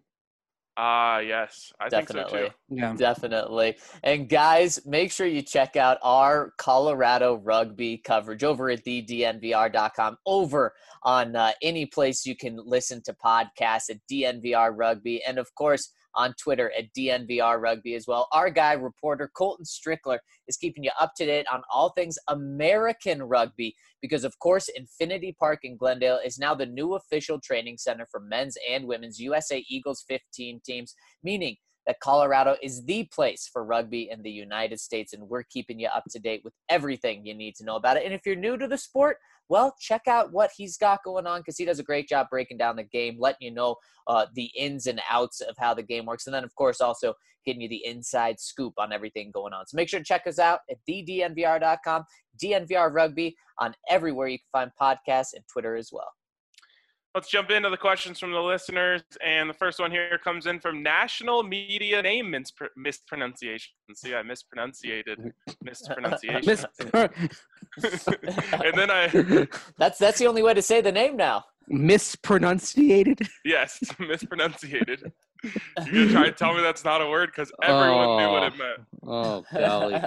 Yes. I think so too. Yeah. Definitely. And guys, make sure you check out our Colorado rugby coverage over at thednvr.com, over on any place you can listen to podcasts at DNVR Rugby, and of course on Twitter at DNVR Rugby as well. Our guy, reporter Colton Strickler, is keeping you up to date on all things American rugby because, of course, Infinity Park in Glendale is now the new official training center for men's and women's USA Eagles 15 teams, meaning that Colorado is the place for rugby in the United States, and we're keeping you up to date with everything you need to know about it. And if you're new to the sport, well, check out what he's got going on, because he does a great job breaking down the game, letting you know the ins and outs of how the game works. And then, of course, also getting you the inside scoop on everything going on. So make sure to check us out at thednvr.com, DNVR Rugby on everywhere you can find podcasts, and Twitter as well. Let's jump into the questions from the listeners. And the first one here comes in from National Media Name Mispronunciation. See, I mispronunciated. Mispronunciation. And then That's the only way to say the name now. Mispronunciated? Yes, mispronunciated. You're going to try and tell me that's not a word? Because everyone knew what it meant. Oh, golly.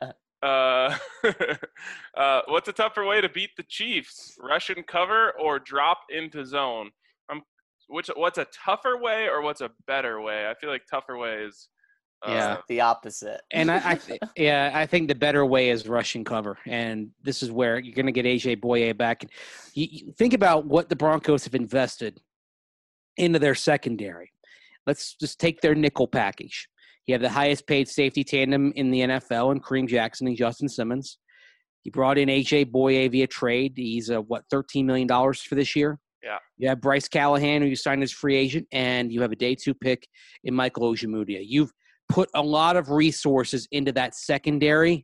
What's a tougher way to beat the Chiefs? Rush and cover or drop into zone? What's a tougher way or what's a better way? I feel like tougher way is the opposite. And I think the better way is rush and cover. And this is where you're going to get AJ Boye back. You think about what the Broncos have invested into their secondary. Let's just take their nickel package. You have the highest paid safety tandem in the NFL in Kareem Jackson and Justin Simmons. You brought in A.J. Boye via trade. He's $13 million for this year. Yeah. You have Bryce Callahan, who you signed as free agent, and you have a day 2 pick in Michael Ojemudia. You've put a lot of resources into that secondary.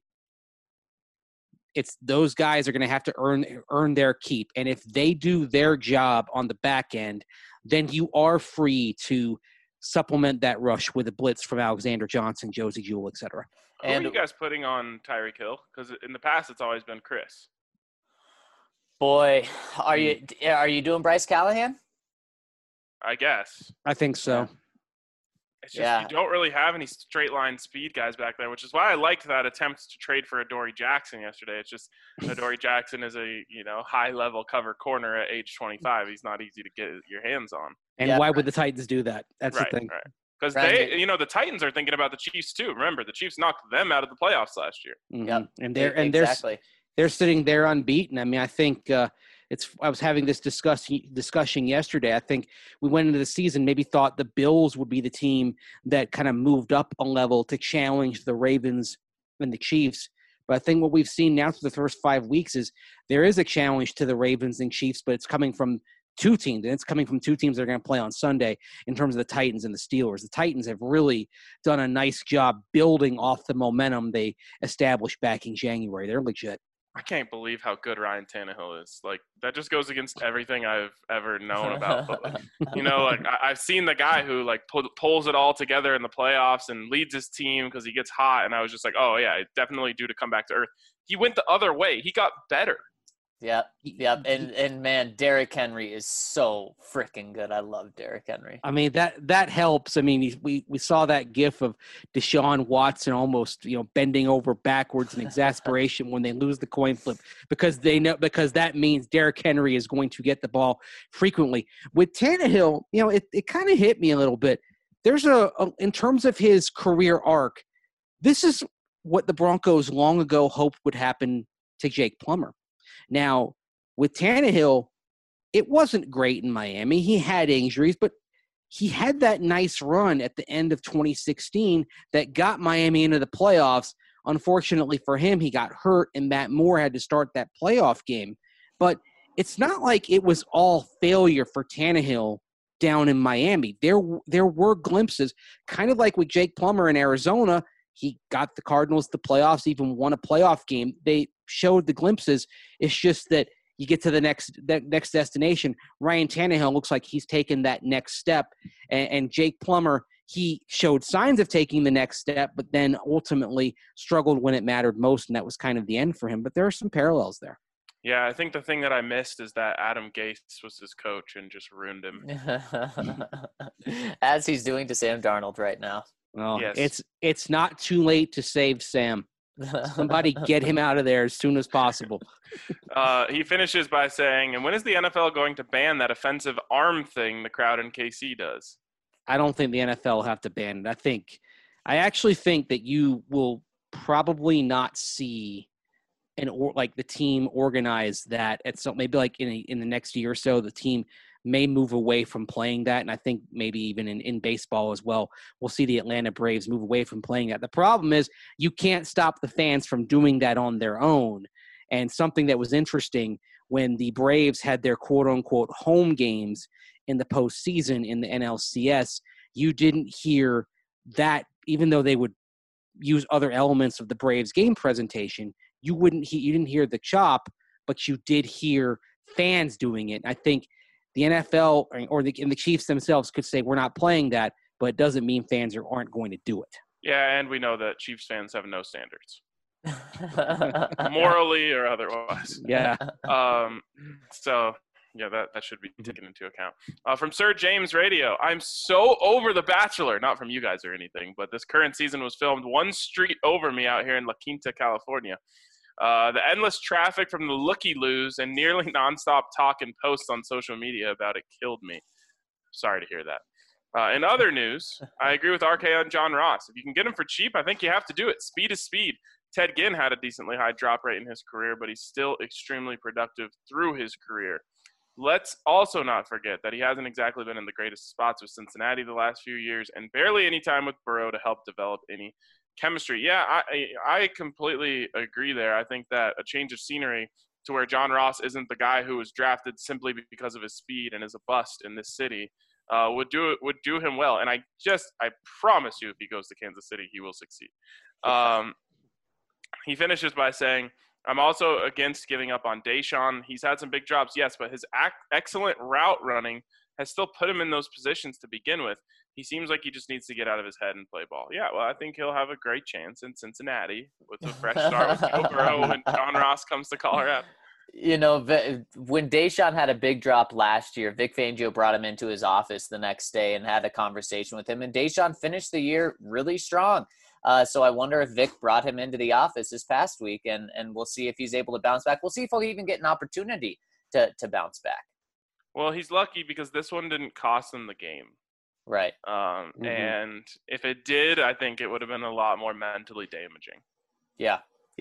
It's those guys are going to have to earn their keep. And if they do their job on the back end, then you are free to supplement that rush with a blitz from Alexander Johnson, Josie Jewell, etc. Who are you guys putting on Tyreek Hill? Because in the past, it's always been Chris. Boy, are you doing Bryce Callahan? I guess. I think so. Yeah. It's just you don't really have any straight line speed guys back there, which is why I liked that attempt to trade for Adoree Jackson yesterday. It's just Adoree Jackson is a high level cover corner at age 25. He's not easy to get your hands on. And why would the Titans do that? That's the thing. Right. Because the Titans are thinking about the Chiefs too. Remember, the Chiefs knocked them out of the playoffs last year. Mm-hmm. And they're sitting there unbeaten. I mean, I think I was having this discussion yesterday. I think we went into the season, maybe thought the Bills would be the team that kind of moved up a level to challenge the Ravens and the Chiefs. But I think what we've seen now through the first 5 weeks is there is a challenge to the Ravens and Chiefs, but it's coming from two teams, and it's coming from two teams that are going to play on Sunday in terms of the Titans and the Steelers. The Titans have really done a nice job building off the momentum they established back in January. They're legit. I can't believe how good Ryan Tannehill is. Like, that just goes against everything I've ever known about. But, I've seen the guy who, pulls it all together in the playoffs and leads his team because he gets hot. And I was just like, oh, yeah, definitely due to come back to earth. He went the other way. He got better. Yep. And man, Derrick Henry is so freaking good. I love Derrick Henry. I mean, that helps. I mean, we saw that gif of Deshaun Watson almost, bending over backwards in exasperation when they lose the coin flip because that means Derrick Henry is going to get the ball frequently. With Tannehill, it kind of hit me a little bit. There's in terms of his career arc, this is what the Broncos long ago hoped would happen to Jake Plummer. Now, with Tannehill, it wasn't great in Miami. He had injuries, but he had that nice run at the end of 2016 that got Miami into the playoffs. Unfortunately for him, he got hurt, and Matt Moore had to start that playoff game. But it's not like it was all failure for Tannehill down in Miami. There were glimpses, kind of like with Jake Plummer in Arizona. He got the Cardinals to the playoffs, even won a playoff game. They showed the glimpses. It's just that you get to the next destination. Ryan Tannehill looks like he's taken that next step. And Jake Plummer, he showed signs of taking the next step, but then ultimately struggled when it mattered most, and that was kind of the end for him. But there are some parallels there. Yeah, I think the thing that I missed is that Adam Gase was his coach and just ruined him. As he's doing to Sam Darnold right now. Well, yes. It's not too late to save Sam. Somebody get him out of there as soon as possible. He finishes by saying, and when is the NFL going to ban that offensive arm thing the crowd in KC does? I don't think the NFL will have to ban it. I actually think that you will probably not see the team organize that at some, maybe like in the next year or so, the team may move away from playing that. And I think maybe even in baseball as well, we'll see the Atlanta Braves move away from playing that. The problem is you can't stop the fans from doing that on their own. And something that was interesting when the Braves had their quote-unquote home games in the postseason in the NLCS, you didn't hear that, even though they would use other elements of the Braves game presentation, you didn't hear the chop, but you did hear fans doing it. I think the NFL and the Chiefs themselves could say we're not playing that, but it doesn't mean fans aren't going to do it. Yeah, and we know that Chiefs fans have no standards, morally or otherwise. Yeah. So yeah, that should be taken into account. From Sir James Radio, I'm so over The Bachelor. Not from you guys or anything, but this current season was filmed one street over me out here in La Quinta, California. The endless traffic from the looky-loos and nearly nonstop talk and posts on social media about it killed me. Sorry to hear that. In other news, I agree with RK on John Ross. If you can get him for cheap, I think you have to do it. Speed is speed. Ted Ginn had a decently high drop rate in his career, but he's still extremely productive through his career. Let's also not forget that he hasn't exactly been in the greatest spots with Cincinnati the last few years and barely any time with Burrow to help develop any chemistry. Yeah, I completely agree there. I think that a change of scenery to where John Ross isn't the guy who was drafted simply because of his speed and is a bust in this city would do him well. And I promise you, if he goes to Kansas City, he will succeed. He finishes by saying, I'm also against giving up on Deshaun. He's had some big drops, yes, but his excellent route running has still put him in those positions to begin with. He seems like he just needs to get out of his head and play ball. Yeah, well, I think he'll have a great chance in Cincinnati with a fresh start with Joe Burrow when John Ross comes to Colorado. You know, when Deshaun had a big drop last year, Vic Fangio brought him into his office the next day and had a conversation with him, and Deshaun finished the year really strong. So I wonder if Vic brought him into the office this past week, and we'll see if he's able to bounce back. We'll see if he'll even get an opportunity to bounce back. Well, he's lucky because this one didn't cost him the game. Right. And if it did, I think it would have been a lot more mentally damaging. Yeah,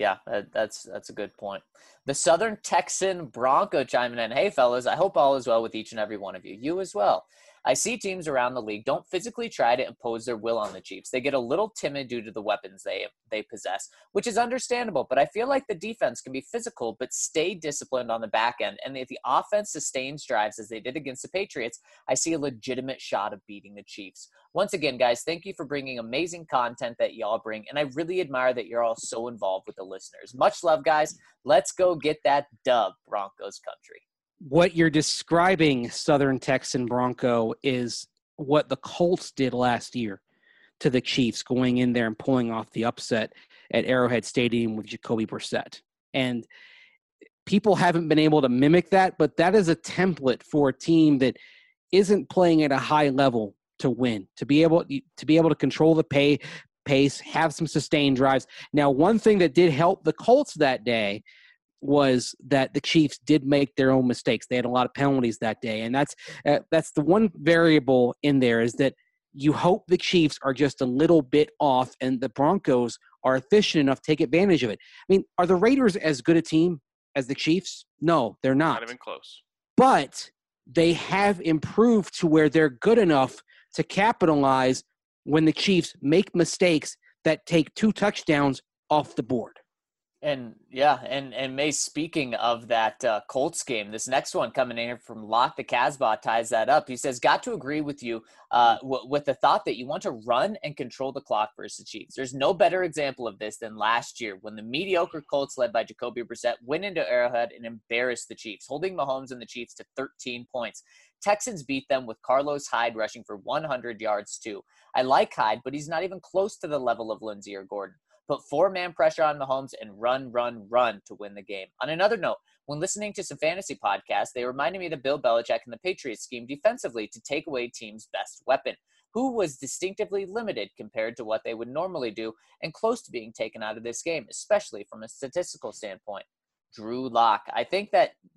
that's a good point. The Southern Texan Bronco chiming in. Hey, fellas, I hope all is well with each and every one of you. You as well. I see teams around the league don't physically try to impose their will on the Chiefs. They get a little timid due to the weapons they possess, which is understandable. But I feel like the defense can be physical but stay disciplined on the back end. And if the offense sustains drives as they did against the Patriots, I see a legitimate shot of beating the Chiefs. Once again, guys, thank you for bringing amazing content that y'all bring. And I really admire that you're all so involved with the listeners. Much love, guys. Let's go get that dub, Broncos country. What you're describing, Southern Texan Bronco, is what the Colts did last year to the Chiefs, going in there and pulling off the upset at Arrowhead Stadium with Jacoby Brissett. And people haven't been able to mimic that, but that is a template for a team that isn't playing at a high level to win, to be able to control the pace, have some sustained drives. Now, one thing that did help the Colts that day was that the Chiefs did make their own mistakes. They had a lot of penalties that day, and that's the one variable in there, is that you hope the Chiefs are just a little bit off and the Broncos are efficient enough to take advantage of it. I mean, are the Raiders as good a team as the Chiefs? No, they're not. Not even close. But they have improved to where they're good enough to capitalize when the Chiefs make mistakes that take 2 touchdowns off the board. And yeah, and May, speaking of that Colts game, this next one coming in here from Lock the Casbah ties that up. He says, got to agree with you with the thought that you want to run and control the clock versus the Chiefs. There's no better example of this than last year when the mediocre Colts led by Jacoby Brissett went into Arrowhead and embarrassed the Chiefs, holding Mahomes and the Chiefs to 13 points. Texans beat them with Carlos Hyde rushing for 100 yards too. I like Hyde, but he's not even close to the level of Lindsey or Gordon. Put 4-man pressure on Mahomes and run to win the game. On another note, when listening to some fantasy podcasts, they reminded me that Bill Belichick and the Patriots schemed defensively to take away team's best weapon, who was distinctively limited compared to what they would normally do and close to being taken out of this game, especially from a statistical standpoint. Drew Lock. I think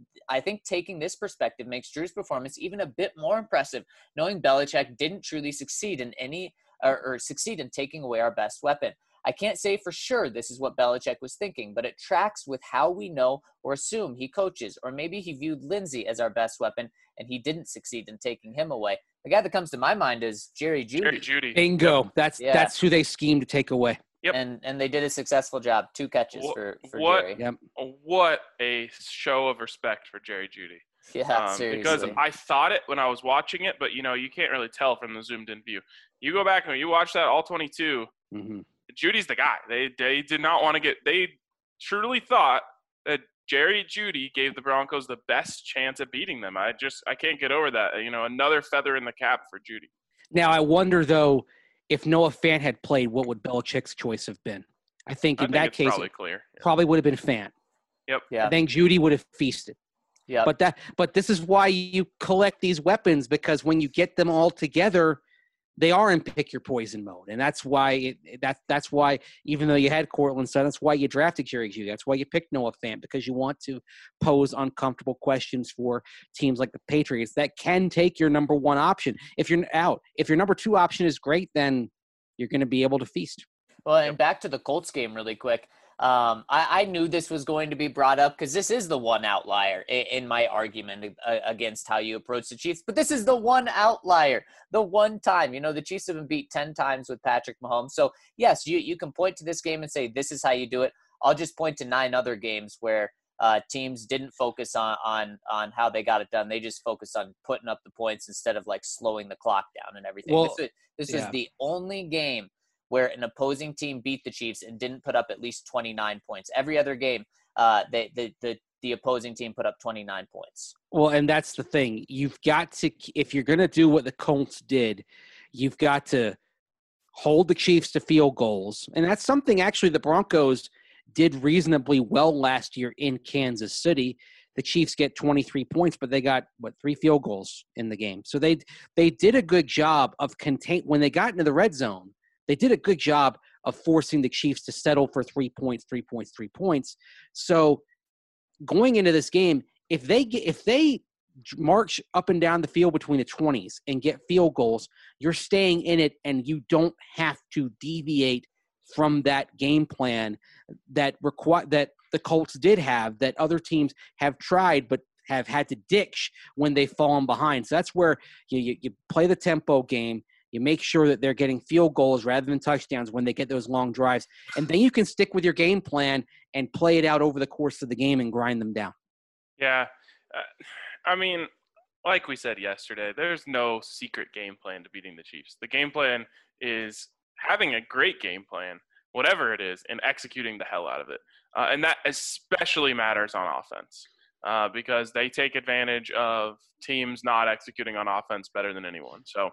taking this perspective makes Drew's performance even a bit more impressive, knowing Belichick didn't truly succeed in succeed in taking away our best weapon. I can't say for sure this is what Belichick was thinking, but it tracks with how we know or assume he coaches, or maybe he viewed Lindsey as our best weapon and he didn't succeed in taking him away. The guy that comes to my mind is Jerry Jeudy. Jerry Jeudy. Bingo. That's who they schemed to take away. Yep. And they did a successful job. 2 catches for Jerry. Yep. What a show of respect for Jerry Jeudy. Yeah, seriously. Because I thought it when I was watching it, but, you can't really tell from the zoomed-in view. You go back and you watch that all 22, Judy's the guy. They did not want to they truly thought that Jerry Jeudy gave the Broncos the best chance at beating them. I can't get over that. Another feather in the cap for Jeudy. Now, I wonder, though, if Noah Fant had played, what would Belichick's choice have been? I think in that case, probably would have been Fant. Yep. Yeah. I think Jeudy would have feasted. Yeah. But this is why you collect these weapons, because when you get them all together, they are in pick your poison mode, and that's why that's why even though you had Courtland Sutton, that's why you drafted Jerry Jeudy. That's why you picked Noah Fant, because you want to pose uncomfortable questions for teams like the Patriots that can take your number one option. If you're out, if your number two option is great, then you're going to be able to feast. Well, and back to the Colts game really quick. I knew this was going to be brought up because this is the one outlier in my argument against how you approach the Chiefs. But this is the one outlier, the one time. The Chiefs have been beat 10 times with Patrick Mahomes. So, yes, you can point to this game and say this is how you do it. I'll just point to 9 other games where teams didn't focus on how they got it done. They just focused on putting up the points instead of, slowing the clock down and everything. Well, this was the only game where an opposing team beat the Chiefs and didn't put up at least 29 points. Every other game, the opposing team put up 29 points. Well, and that's the thing. You've got to, if you're going to do what the Colts did, you've got to hold the Chiefs to field goals. And that's something actually the Broncos did reasonably well last year in Kansas City. The Chiefs get 23 points, but they got, 3 field goals in the game. So they did a good job of when they got into the red zone, they did a good job of forcing the Chiefs to settle for 3 points, 3 points, 3 points. So going into this game, if they march up and down the field between the 20s and get field goals, you're staying in it, and you don't have to deviate from that game plan that the Colts did have, that other teams have tried but have had to ditch when they've fallen behind. So that's where you play the tempo game. You make sure that they're getting field goals rather than touchdowns when they get those long drives. And then you can stick with your game plan and play it out over the course of the game and grind them down. Yeah. Like we said yesterday, there's no secret game plan to beating the Chiefs. The game plan is having a great game plan, whatever it is, and executing the hell out of it. And that especially matters on offense because they take advantage of teams not executing on offense better than anyone. So,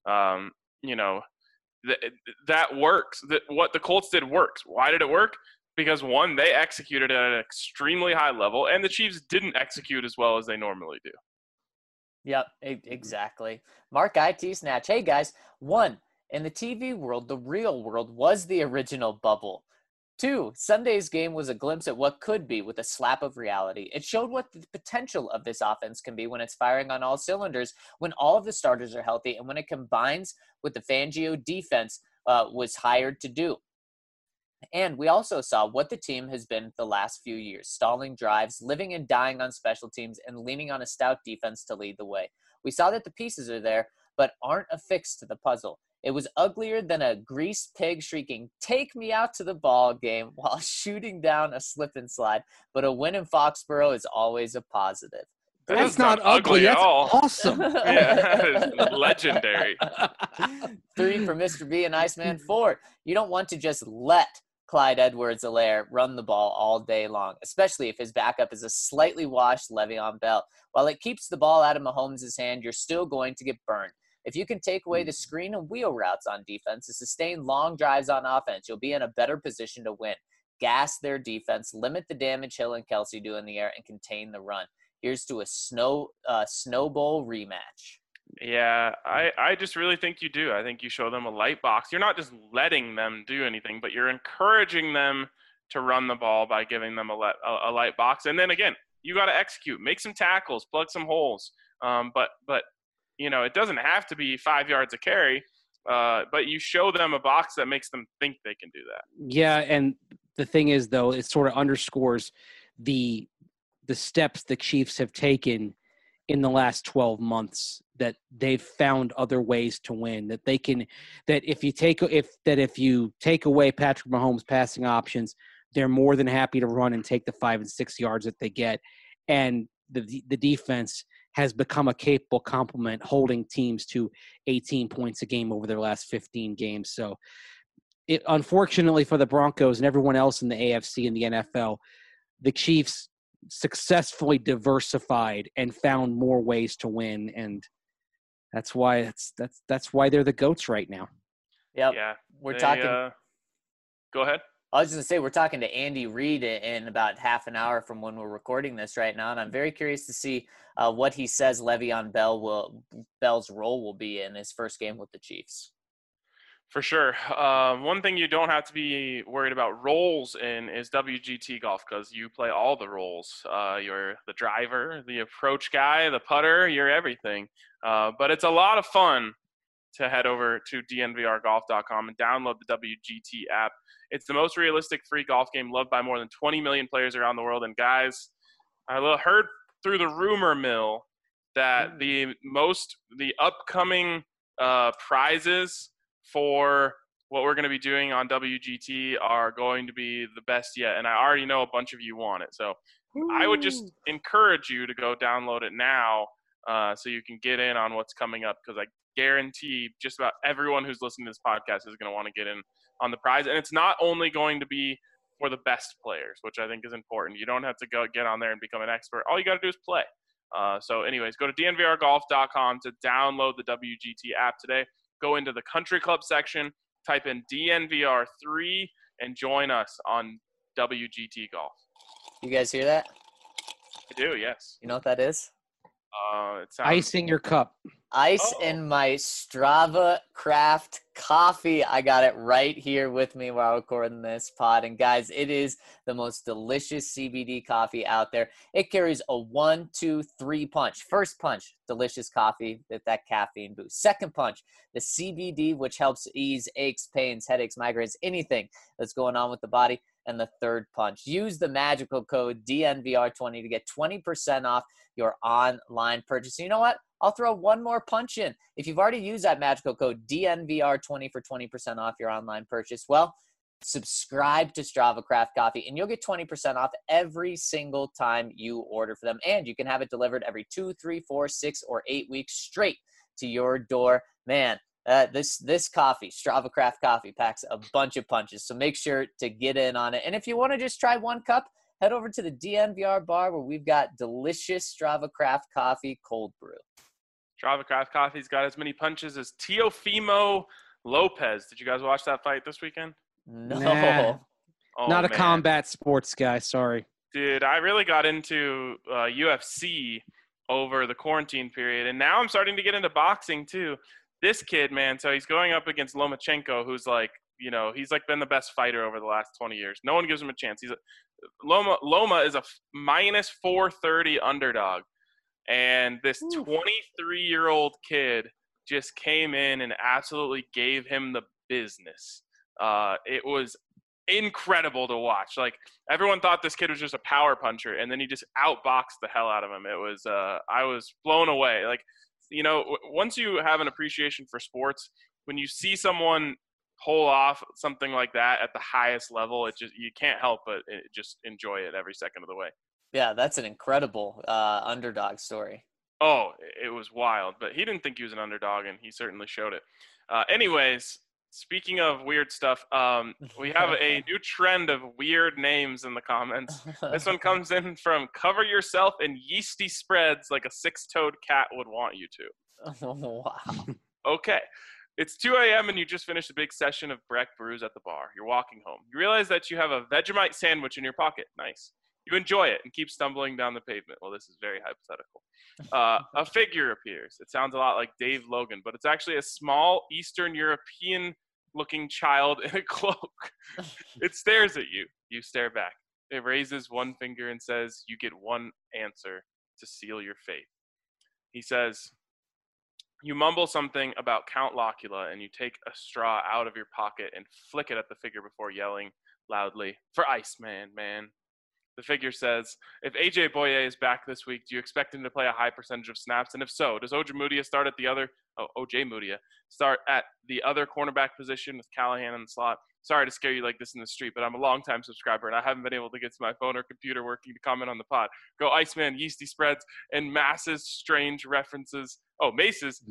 that works. What the Colts did works. Why did it work? Because, one, they executed at an extremely high level, and the Chiefs didn't execute as well as they normally do. Yep, exactly. Mark IT Snatch. Hey, guys. 1, in the TV world, the real world was the original bubble. 2, Sunday's game was a glimpse at what could be with a slap of reality. It showed what the potential of this offense can be when it's firing on all cylinders, when all of the starters are healthy, and when it combines with the Fangio defense was hired to do. And we also saw what the team has been the last few years, stalling drives, living and dying on special teams, and leaning on a stout defense to lead the way. We saw that the pieces are there, but aren't affixed to the puzzle. It was uglier than a greased pig shrieking, "Take me out to the ball game," while shooting down a slip and slide. But a win in Foxborough is always a positive. That's not ugly at all. Awesome. Yeah, that is legendary. 3 for Mr. B and Iceman. 4, you don't want to just let Clyde Edwards-Helaire run the ball all day long, especially if his backup is a slightly washed Le'Veon Bell. While it keeps the ball out of Mahomes' hand, you're still going to get burned. If you can take away the screen and wheel routes on defense and sustain long drives on offense, you'll be in a better position to win. Gas their defense, limit the damage Hill and Kelsey do in the air, and contain the run. Here's to a Snow Bowl rematch. Yeah, I just really think you do. I think you show them a light box. You're not just letting them do anything, but you're encouraging them to run the ball by giving them a light box. And then, again, you got to execute. Make some tackles, plug some holes. But it doesn't have to be 5 yards a carry. but you show them a box that makes them think they can do that. Yeah, and the thing is, though, it sort of underscores the steps the Chiefs have taken in the last 12 months, that they've found other ways to win, that they can, that if you take away Patrick Mahomes' passing options, they're more than happy to run and take the 5 and 6 yards that they get. And the defense has become a capable complement, holding teams to 18 points a game over their last 15 games. So unfortunately for the Broncos and everyone else in the AFC and the NFL, the Chiefs successfully diversified and found more ways to win, and that's why that's why they're the GOATs right now. Yep. Yeah, We're talking. Go ahead. I was going to say, we're talking to Andy Reid in about half an hour from when we're recording this right now, and I'm very curious to see what he says Le'Veon Bell's role will be in his first game with the Chiefs. For sure. One thing you don't have to be worried about roles in is WGT golf, because you play all the roles. You're the driver, the approach guy, the putter, you're everything. But it's a lot of fun to head over to dnvrgolf.com and download the WGT app. It's the most realistic free golf game, loved by more than 20 million players around the world. And guys, I heard through the rumor mill that the upcoming prizes for what we're going to be doing on WGT are going to be the best yet. And I already know a bunch of you want it. So I would just encourage you to go download it now so you can get in on what's coming up, because I guarantee just about everyone who's listening to this podcast is going to want to get in on the prize. And it's not only going to be for the best players, which I think is important. You don't have to go get on there and become an expert. All you got to do is play. So anyways, go to dnvrgolf.com to download the WGT app today. Go into the country club section, type in DNVR3, and join us on WGT Golf. You guys hear that? I do, yes. You know what that is? It sounds... Ice in your cup. Ice in my Strava Craft coffee. I got it right here with me while recording this pod. And guys, it is the most delicious CBD coffee out there. It carries a 1, 2, 3 punch. First punch, delicious coffee with that caffeine boost. Second punch, the CBD, which helps ease aches, pains, headaches, migraines, anything that's going on with the body. And the third punch, use the magical code DNVR20 to get 20% off your online purchase. You know what? I'll throw one more punch in. If you've already used that magical code DNVR20 for 20% off your online purchase, well, subscribe to Strava Craft Coffee and you'll get 20% off every single time you order for them. And you can have it delivered every 2, 3, 4, 6, or 8 weeks straight to your door. Man, this coffee, Strava Craft Coffee, packs a bunch of punches. So make sure to get in on it. And if you want to just try one cup, head over to the DNVR bar where we've got delicious Strava Craft Coffee cold brew. Strava Craft Coffee's got as many punches as Teofimo Lopez. Did you guys watch that fight this weekend? No. Nah. Oh, Not a man. combat sports guy, sorry. Dude, I really got into UFC over the quarantine period, and now I'm starting to get into boxing too. This kid, man, so he's going up against Lomachenko, who's like, you know, he's like been the best fighter over the last 20 years. No one gives him a chance. Loma is a minus 430 underdog. And this 23-year-old kid just came in and absolutely gave him the business. It was incredible to watch. Like, everyone thought this kid was just a power puncher, and then he just outboxed the hell out of him. It was I was blown away. Like, you know, once you have an appreciation for sports, when you see someone pull off something like that at the highest level, you can't help but just enjoy it every second of the way. Yeah, that's an incredible underdog story. Oh, it was wild, but he didn't think he was an underdog, and he certainly showed it. Anyways, speaking of weird stuff, we have a new trend of weird names in the comments. This one comes in from Cover Yourself in Yeasty Spreads Like a Six-Toed Cat Would Want You to. Wow. Okay. It's 2 a.m. and you just finished a big session of Breck brews at the bar. You're walking home. You realize that you have a Vegemite sandwich in your pocket. Nice. You enjoy it and keep stumbling down the pavement. Well, this is very hypothetical. A figure appears. It sounds a lot like Dave Logan, but it's actually a small Eastern European-looking child in a cloak. It stares at you. You stare back. It raises one finger and says, "You get one answer to seal your fate." He says, You mumble something about Count Locula, and you take a straw out of your pocket and flick it at the figure before yelling loudly, "For Iceman, man." The figure says, if AJ Boye is back this week, do you expect him to play a high percentage of snaps? And if so, does OJ Mudia start at the other cornerback position with Callahan in the slot? Sorry to scare you like this in the street, but I'm a longtime subscriber, and I haven't been able to get to my phone or computer working to comment on the pod. Go Iceman, Yeasty Spreads, and Mace's strange references. Oh, Mace's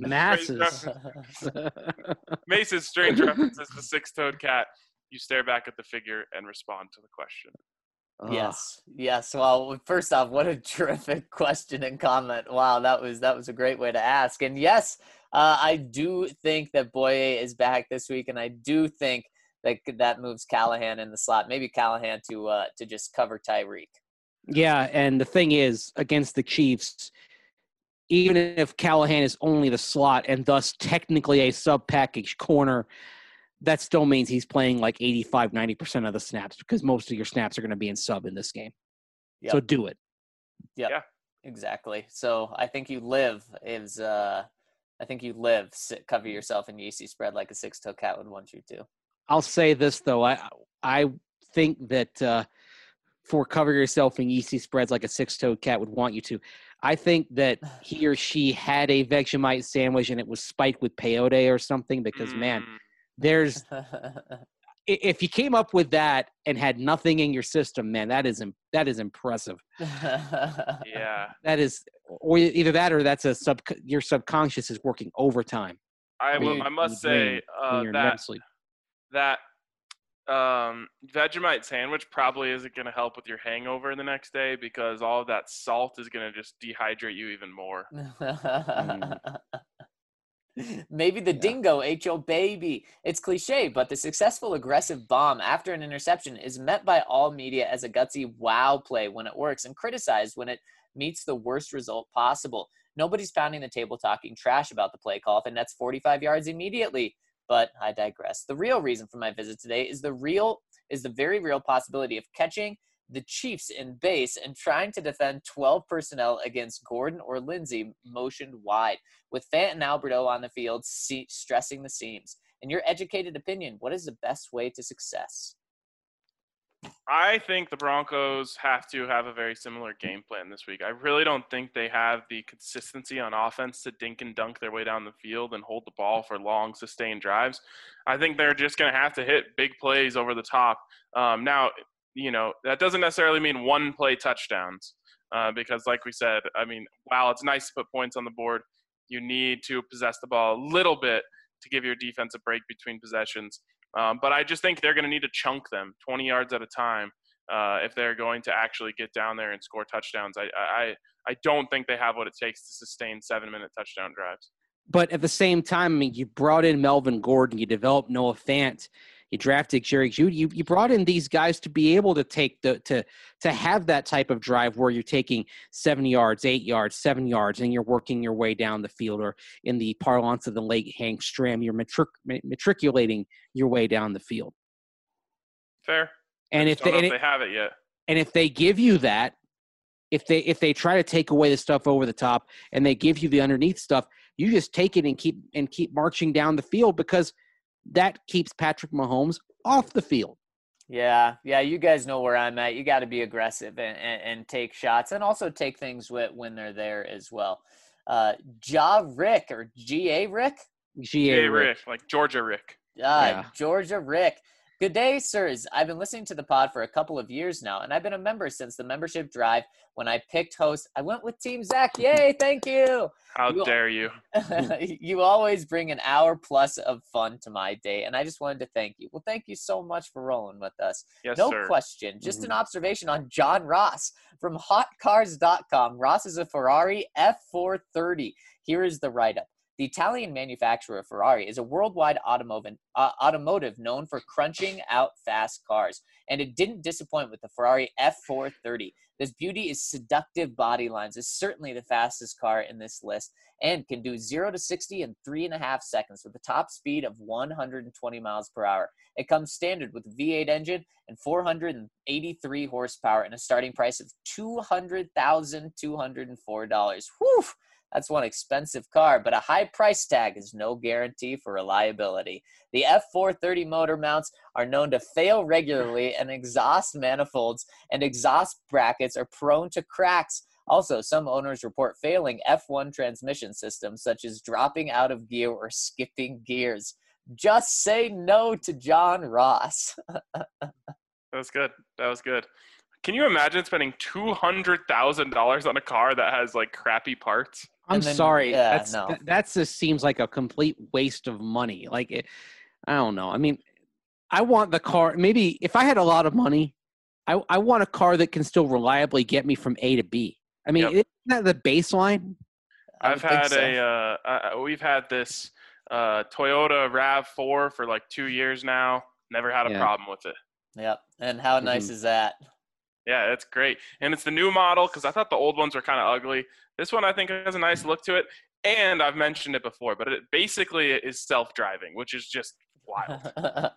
Mace's strange references to Six-Toed Cat. You stare back at the figure and respond to the question. Yes. Well, first off, what a terrific question and comment. Wow, that was a great way to ask. And yes, I do think that Boye is back this week, and I do think that moves Callahan in the slot. Maybe Callahan to just cover Tyreek. Yeah, and the thing is, against the Chiefs, even if Callahan is only the slot and thus technically a sub-package corner, that still means he's playing like 85, 90% of the snaps because most of your snaps are going to be in sub in this game. Yep. So do it. Yep. Yeah, exactly. So I think you live cover yourself in Yeasty Spread like a six-toe cat would want you to. I'll say this, though. I think that for cover yourself in Yeasty Spreads like a six-toed cat would want you to, I think that he or she had a Vegemite sandwich and it was spiked with peyote or something because, man, there's – if you came up with that and had nothing in your system, man, that is impressive. Yeah. That is – or either that or that's your subconscious is working overtime. I must say that Vegemite sandwich probably isn't going to help with your hangover the next day because all of that salt is going to just dehydrate you even more. Maybe the dingo ate your baby. It's cliche, but the successful aggressive bomb after an interception is met by all media as a gutsy wow play when it works and criticized when it meets the worst result possible. Nobody's pounding the table talking trash about the play call if it nets 45 yards immediately. But I digress. The real reason for my visit today is the very real possibility of catching the Chiefs in base and trying to defend 12 personnel against Gordon or Lindsey motioned wide, with Fant and Alberto on the field stressing the seams. In your educated opinion, what is the best way to success? I think the Broncos have to have a very similar game plan this week. I really don't think they have the consistency on offense to dink and dunk their way down the field and hold the ball for long, sustained drives. I think they're just going to have to hit big plays over the top. Now, that doesn't necessarily mean one-play touchdowns because, like we said, I mean, while it's nice to put points on the board, you need to possess the ball a little bit to give your defense a break between possessions. But I just think they're going to need to chunk them 20 yards at a time if they're going to actually get down there and score touchdowns. I don't think they have what it takes to sustain 7-minute touchdown drives. But at the same time, I mean, you brought in Melvin Gordon, you developed Noah Fant, you drafted Jerry Jeudy. You brought in these guys to be able to take to have that type of drive where you're taking 7 yards, 8 yards, 7 yards, and you're working your way down the field, or in the parlance of the late Hank Stram, you're matriculating your way down the field. Fair. And if they have it yet, and if they give you that, if they try to take away the stuff over the top and they give you the underneath stuff, you just take it and keep marching down the field because that keeps Patrick Mahomes off the field. Yeah, you guys know where I'm at. You got to be aggressive and take shots and also take things when they're there as well. Rick or G.A. Rick? G.A. Rick, like Georgia Rick. Georgia Rick. Good day, sirs. I've been listening to the pod for a couple of years now, and I've been a member since the membership drive. When I picked host, I went with Team Zach. Yay, thank you. How dare you? You always bring an hour plus of fun to my day, and I just wanted to thank you. Well, thank you so much for rolling with us. Yes, no sir. question. Just an observation on John Ross from hotcars.com. Ross is a Ferrari F430. Here is the write-up. The Italian manufacturer Ferrari is a worldwide automotive known for crunching out fast cars, and it didn't disappoint with the Ferrari F430. This beauty is seductive body lines, is certainly the fastest car in this list, and can do 0 to 60 in 3.5 seconds with a top speed of 120 miles per hour. It comes standard with a V8 engine and 483 horsepower and a starting price of $200,204. Whew! That's one expensive car, but a high price tag is no guarantee for reliability. The F430 motor mounts are known to fail regularly, and exhaust manifolds and exhaust brackets are prone to cracks. Also, some owners report failing F1 transmission systems, such as dropping out of gear or skipping gears. Just say no to John Ross. That was good. That was good. Can you imagine spending $200,000 on a car that has like crappy parts? I'm sorry. Yeah, that just seems like a complete waste of money. Like, I don't know. I mean, I want the car. Maybe if I had a lot of money, I want a car that can still reliably get me from A to B. I mean, isn't that the baseline? We've had this Toyota RAV4 for like 2 years now. Never had a problem with it. Yep. And how nice is that? Yeah, it's great. And it's the new model because I thought the old ones were kind of ugly. This one I think has a nice look to it. And I've mentioned it before, but it basically is self-driving, which is just wild.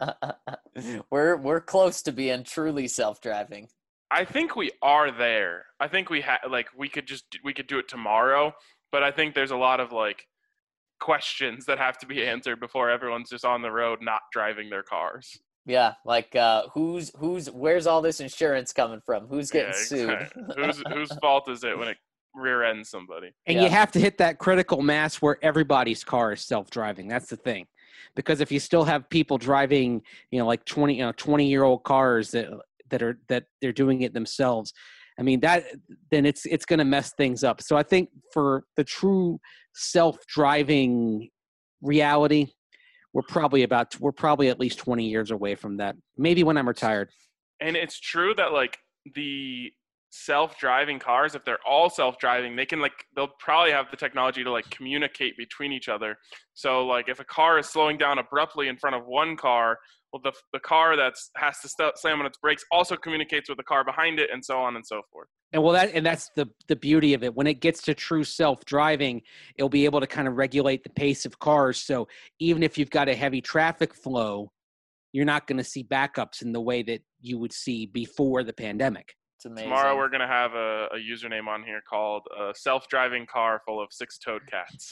We're close to being truly self-driving. I think we are there. I think we could do it tomorrow, but I think there's a lot of like questions that have to be answered before everyone's just on the road not driving their cars. Yeah, like where's all this insurance coming from? Who's getting sued? Whose fault is it when it rear ends somebody? And you have to hit that critical mass where everybody's car is self-driving. That's the thing. Because if you still have people driving, like 20-year-old cars that they're doing it themselves, I mean then it's going to mess things up. So I think for the true self-driving reality, we're probably at least 20 years away from that. Maybe when I'm retired. And it's true that like the self-driving cars, if they're all self-driving, they'll probably have the technology to like communicate between each other. So like if a car is slowing down abruptly in front of one car, well the car has to slam on its brakes also communicates with the car behind it, and so on and so forth. And that's the beauty of it. When it gets to true self-driving, it'll be able to kind of regulate the pace of cars. So even if you've got a heavy traffic flow, you're not going to see backups in the way that you would see before the pandemic. It's amazing. Tomorrow we're going to have a username on here called self-driving car full of six-toed cats.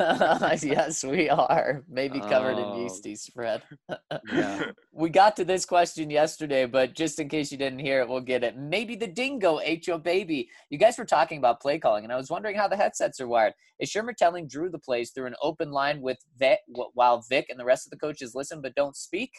Yes, we are. Maybe covered in yeasty spread. Yeah. We got to this question yesterday, but just in case you didn't hear it, we'll get it. Maybe the dingo ate your baby. You guys were talking about play calling, and I was wondering how the headsets are wired. Is Shermer telling Drew the plays through an open line with Vic, while Vic and the rest of the coaches listen but don't speak?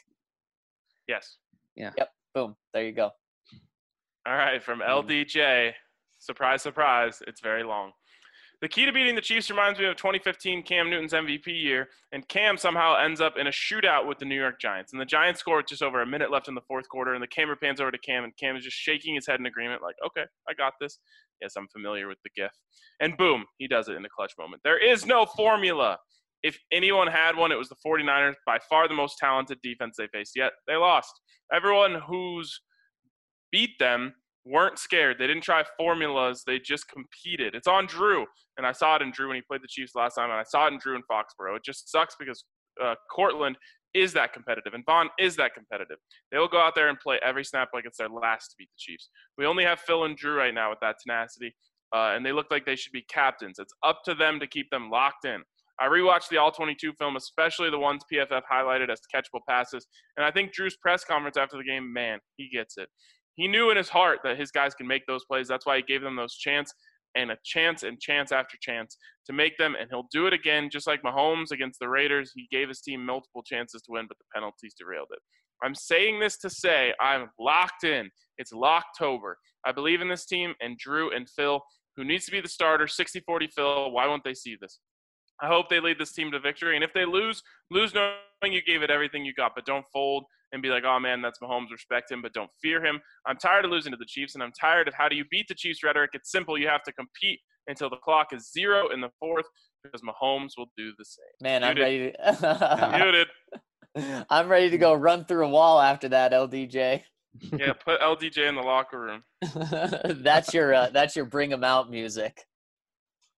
Yes. Yeah. Yep. Boom. There you go. All right, from LDJ, surprise, surprise, it's very long. The key to beating the Chiefs reminds me of 2015 Cam Newton's MVP year, and Cam somehow ends up in a shootout with the New York Giants. And the Giants score with just over a minute left in the fourth quarter, and the camera pans over to Cam, and Cam is just shaking his head in agreement like, okay, I got this. Yes, I'm familiar with the GIF. And boom, he does it in a clutch moment. There is no formula. If anyone had one, it was the 49ers, by far the most talented defense they faced, yet they lost. Everyone who's beat them weren't scared. They didn't try formulas. They just competed. It's on Drew, and I saw it in Drew when he played the Chiefs last time, and I saw it in Drew in Foxborough. It just sucks because Cortland is that competitive, and Vaughn is that competitive. They'll go out there and play every snap like it's their last to beat the Chiefs. We only have Phil and Drew right now with that tenacity, and they look like they should be captains. It's up to them to keep them locked in. I rewatched the All-22 film, especially the ones PFF highlighted as catchable passes, and I think Drew's press conference after the game, man, he gets it. He knew in his heart that his guys can make those plays. That's why he gave them those chance and chance after chance to make them, and he'll do it again, just like Mahomes against the Raiders. He gave his team multiple chances to win, but the penalties derailed it. I'm saying this to say I'm locked in. It's Locktober. I believe in this team and Drew and Phil, who needs to be the starter, 60-40 Phil. Why won't they see this? I hope they lead this team to victory. And if they lose knowing you gave it everything you got, but don't fold and be like, oh, man, that's Mahomes. Respect him, but don't fear him. I'm tired of losing to the Chiefs, and I'm tired of how do you beat the Chiefs rhetoric. It's simple. You have to compete until the clock is 0 in the fourth, because Mahomes will do the same. Man, Muted. I'm ready to Muted. I'm ready to go run through a wall after that, LDJ. Yeah, put LDJ in the locker room. That's your bring 'em out music.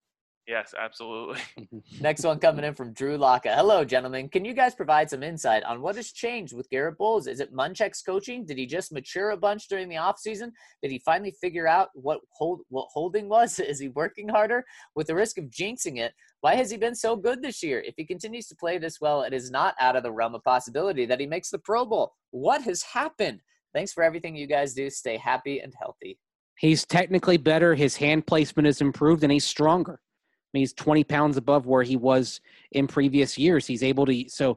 Yes, absolutely. Next one coming in from Drew Locka. Hello, gentlemen. Can you guys provide some insight on what has changed with Garrett Bowles? Is it Munchak's coaching? Did he just mature a bunch during the offseason? Did he finally figure out what holding was? Is he working harder? With the risk of jinxing it, why has he been so good this year? If he continues to play this well, it is not out of the realm of possibility that he makes the Pro Bowl. What has happened? Thanks for everything you guys do. Stay happy and healthy. He's technically better. His hand placement has improved, and he's stronger. I mean, he's 20 pounds above where he was in previous years. He's able to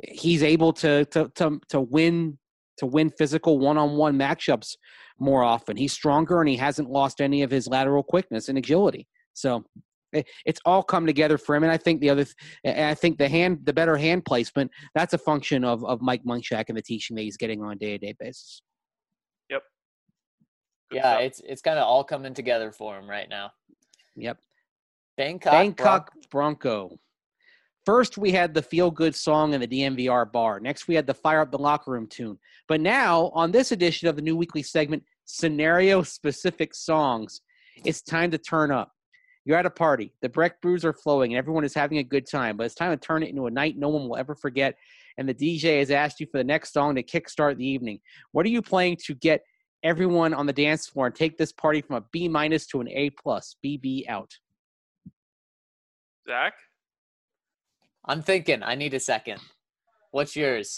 win physical one-on-one matchups more often. He's stronger, and he hasn't lost any of his lateral quickness and agility. So it's all come together for him. And I think the better hand placement, that's a function of Mike Munchak and the teaching that he's getting on a day-to-day basis. Yep. Good Yeah, stuff. it's kind of all coming together for him right now. Yep. Bangkok Bronco. First, we had the feel-good song in the DMVR bar. Next, we had the Fire Up the Locker Room tune. But now, on this edition of the new weekly segment, Scenario-Specific Songs, it's time to turn up. You're at a party. The Breck brews are flowing, and everyone is having a good time. But it's time to turn it into a night no one will ever forget. And the DJ has asked you for the next song to kickstart the evening. What are you playing to get everyone on the dance floor and take this party from a B- to an A+? BB out. Zach? I'm thinking. I need a second. What's yours?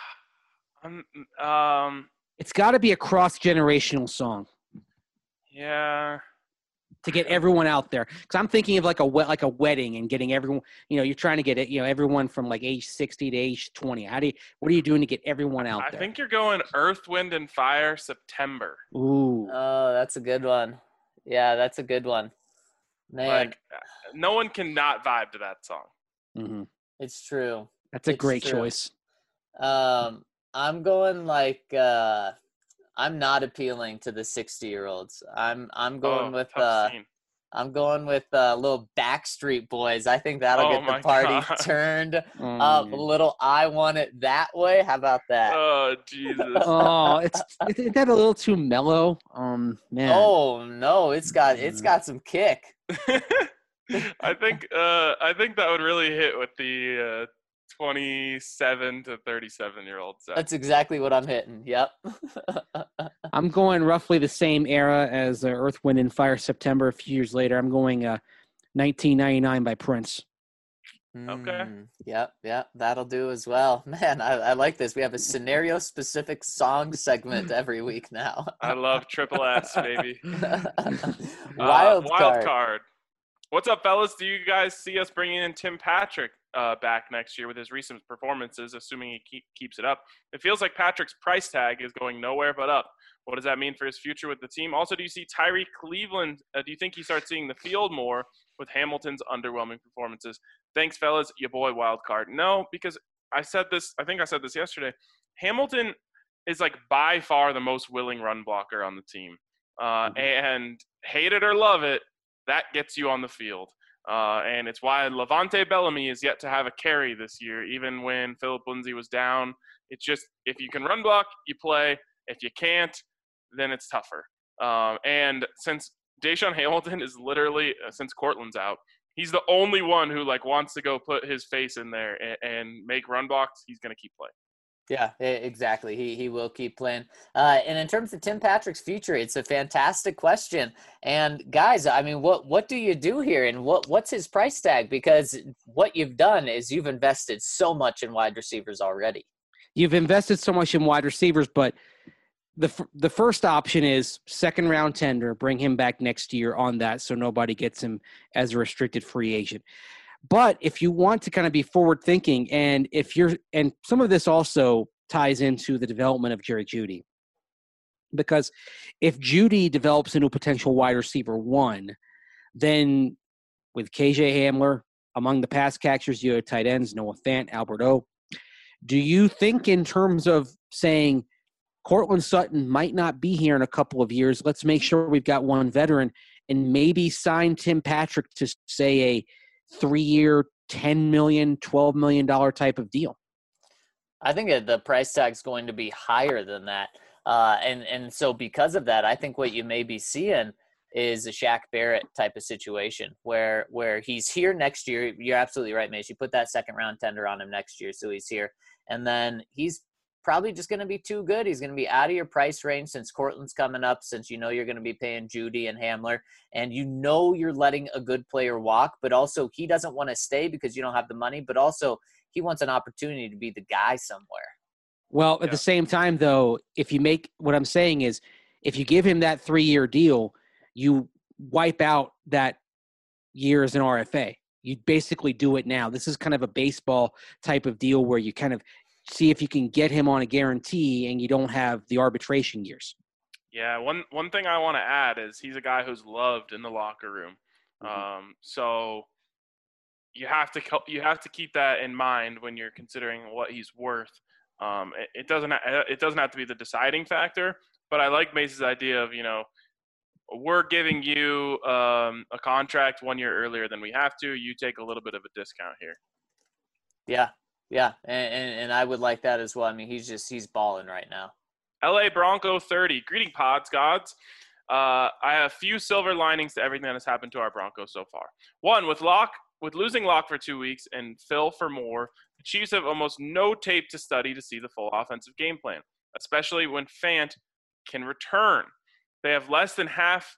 It's got to be a cross-generational song. Yeah. To get everyone out there, because I'm thinking of like a wedding and getting everyone. You're trying to get it. Everyone from like age 60 to age 20. What are you doing to get everyone out there? I think you're going Earth, Wind, and Fire, September. Ooh. Oh, that's a good one. Yeah, that's a good one. Man, Like, no one can not vibe to that song. Mm-hmm. it's true. That's a It's great true. choice. I'm going like I'm not appealing to the 60-year-olds. I'm going with tough scene. I'm going with little Backstreet Boys. I think that'll Oh get the my party God. turned up a little. I Want It That Way. How about that? Oh, Jesus. Oh, is that a little too mellow? Man. Oh no, it's got some kick. I think that would really hit with the 27 to 37-year-old. That's exactly what I'm hitting. Yep. I'm going roughly the same era as Earth, Wind, and Fire, September. A few years later, I'm going 1999 by Prince. Okay. Yep. That'll do as well. Man, I like this. We have a scenario-specific song segment every week now. I love Triple S, baby. Wild card. What's up, fellas? Do you guys see us bringing in Tim Patrick back next year with his recent performances, assuming he keeps it up? It feels like Patrick's price tag is going nowhere but up. What does that mean for his future with the team? Also, do you see Tyree Cleveland? Do you think he starts seeing the field more with Hamilton's underwhelming performances? Thanks, fellas. Your boy, Wild Card. No, because I think I said this yesterday. Hamilton is like by far the most willing run blocker on the team. And hate it or love it, that gets you on the field. And it's why Levante Bellamy is yet to have a carry this year, even when Philip Lindsay was down. It's just, if you can run block, you play. If you can't, then it's tougher. And since Deshaun Hamilton is literally, since Cortland's out, he's the only one who wants to go put his face in there and make run blocks. He's going to keep playing. Yeah, exactly. He will keep playing. And in terms of Tim Patrick's future, it's a fantastic question. And guys, I mean, what do you do here, and what's his price tag? Because what you've done is you've invested so much in wide receivers already. You've invested so much in wide receivers, but the first option is second round tender. Bring him back next year on that, so nobody gets him as a restricted free agent. But if you want to kind of be forward thinking, and some of this also ties into the development of Jerry Jeudy, because if Jeudy develops into a potential wide receiver one, then with KJ Hamler among the pass catchers, you have tight ends, Noah Fant, Albert O. Do you think in terms of saying Cortland Sutton might not be here in a couple of years, let's make sure we've got one veteran, and maybe sign Tim Patrick to say a 3-year, $10 million, $12 million type of deal? I think the price tag is going to be higher than that. And so because of that, I think what you may be seeing is a Shaq Barrett type of situation where he's here next year. You're absolutely right, Mace. You put that second round tender on him next year, so he's here. And then he's probably just going to be too good. He's going to be out of your price range since Cortland's coming up, since you're going to be paying Judy and Hamler, and you're letting a good player walk, but also he doesn't want to stay because you don't have the money, but also he wants an opportunity to be the guy somewhere. Well, at the same time, though, if you make – what I'm saying is if you give him that 3-year deal, you wipe out that year as an RFA. You basically do it now. This is kind of a baseball type of deal where you kind of see if you can get him on a guarantee and you don't have the arbitration years. Yeah, one thing I want to add is he's a guy who's loved in the locker room. So you have to keep that in mind when you're considering what he's worth. It doesn't have to be the deciding factor, but I like Mace's idea of, we're giving you a contract 1 year earlier than we have to. You take a little bit of a discount here. Yeah, and I would like that as well. I mean, he's balling right now. LA Bronco 30. Greeting pods, gods. I have a few silver linings to everything that has happened to our Broncos so far. One, with losing Locke for 2 weeks and Phil for more, the Chiefs have almost no tape to study to see the full offensive game plan, especially when Fant can return. They have less than a half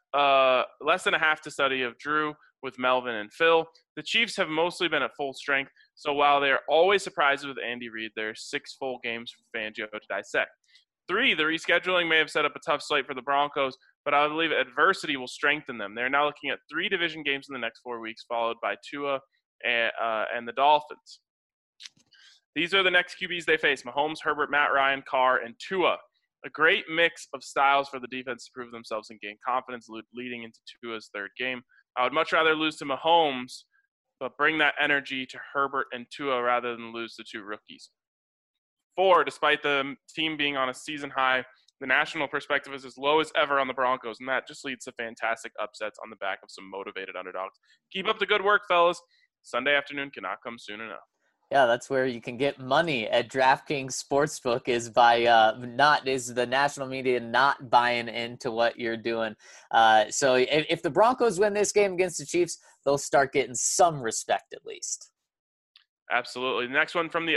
to study of Drew with Melvin and Phil. The Chiefs have mostly been at full strength, so while they are always surprises with Andy Reid, there are 6 full games for Fangio to dissect. 3, the rescheduling may have set up a tough slate for the Broncos, but I believe adversity will strengthen them. They're now looking at 3 division games in the next 4 weeks, followed by Tua and the Dolphins. These are the next QBs they face: Mahomes, Herbert, Matt Ryan, Carr, and Tua. A great mix of styles for the defense to prove themselves and gain confidence leading into Tua's third game. I would much rather lose to Mahomes, but bring that energy to Herbert and Tua rather than lose the 2 rookies. 4, despite the team being on a season high, the national perspective is as low as ever on the Broncos, and that just leads to fantastic upsets on the back of some motivated underdogs. Keep up the good work, fellas. Sunday afternoon cannot come soon enough. Yeah, that's where you can get money at DraftKings Sportsbook is by the national media not buying into what you're doing. So if the Broncos win this game against the Chiefs, they'll start getting some respect at least. Absolutely. Next one from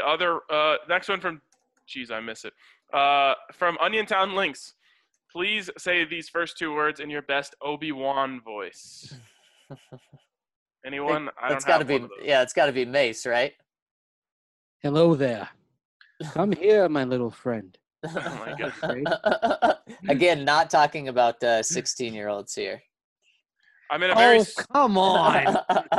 I miss it. From Onion Town Links. Please say these first 2 words in your best Obi-Wan voice. Anyone? It's got to be Mace, right? Hello there. Come here, my little friend. Oh my God. Again, not talking about 16-year-olds here. I'm in a very come on.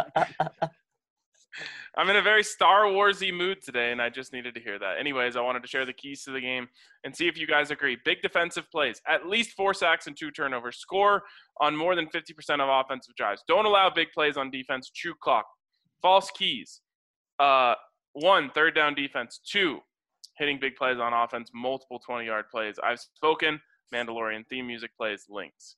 I'm in a very Star Wars-y mood today, and I just needed to hear that. Anyways, I wanted to share the keys to the game and see if you guys agree. Big defensive plays, at least 4 sacks and 2 turnovers. Score on more than 50% of offensive drives. Don't allow big plays on defense. Chew clock. False keys. 1, third down defense. 2, hitting big plays on offense. Multiple 20-yard plays. I've spoken. Mandalorian theme music plays. Links.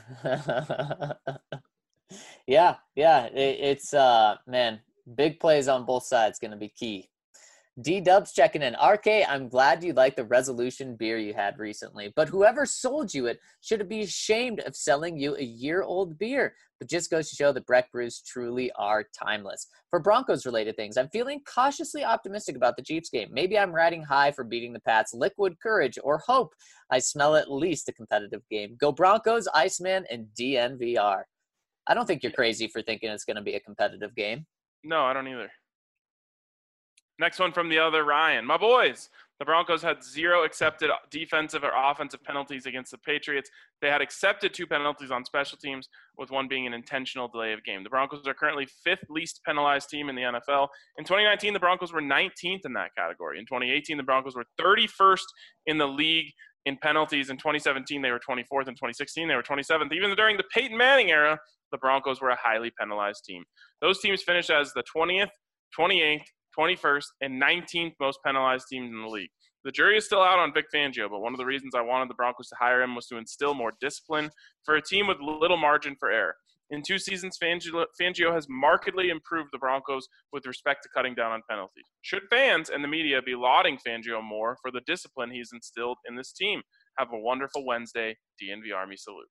Yeah. It's man. Big plays on both sides going to be key. D-Dubs checking in. RK, I'm glad you like the Resolution beer you had recently, but whoever sold you it should be ashamed of selling you a year-old beer. But just goes to show that Breck brews truly are timeless. For Broncos-related things, I'm feeling cautiously optimistic about the Chiefs game. Maybe I'm riding high for beating the Pats, liquid courage, or hope I smell at least a competitive game. Go Broncos, Iceman, and DNVR. I don't think you're crazy for thinking it's going to be a competitive game. No, I don't either. Next one from the other Ryan. My boys, the Broncos had 0 accepted defensive or offensive penalties against the Patriots. They had accepted 2 penalties on special teams, with 1 being an intentional delay of game. The Broncos are currently 5th least penalized team in the NFL. In 2019, the Broncos were 19th in that category. In 2018, the Broncos were 31st in the league in penalties. In 2017, they were 24th. In 2016, they were 27th. Even during the Peyton Manning era, the Broncos were a highly penalized team. Those teams finished as the 20th, 28th, 21st, and 19th most penalized teams in the league. The jury is still out on Vic Fangio, but one of the reasons I wanted the Broncos to hire him was to instill more discipline for a team with little margin for error. In 2 seasons, Fangio has markedly improved the Broncos with respect to cutting down on penalties. Should fans and the media be lauding Fangio more for the discipline he's instilled in this team? Have a wonderful Wednesday. DNV Army salute.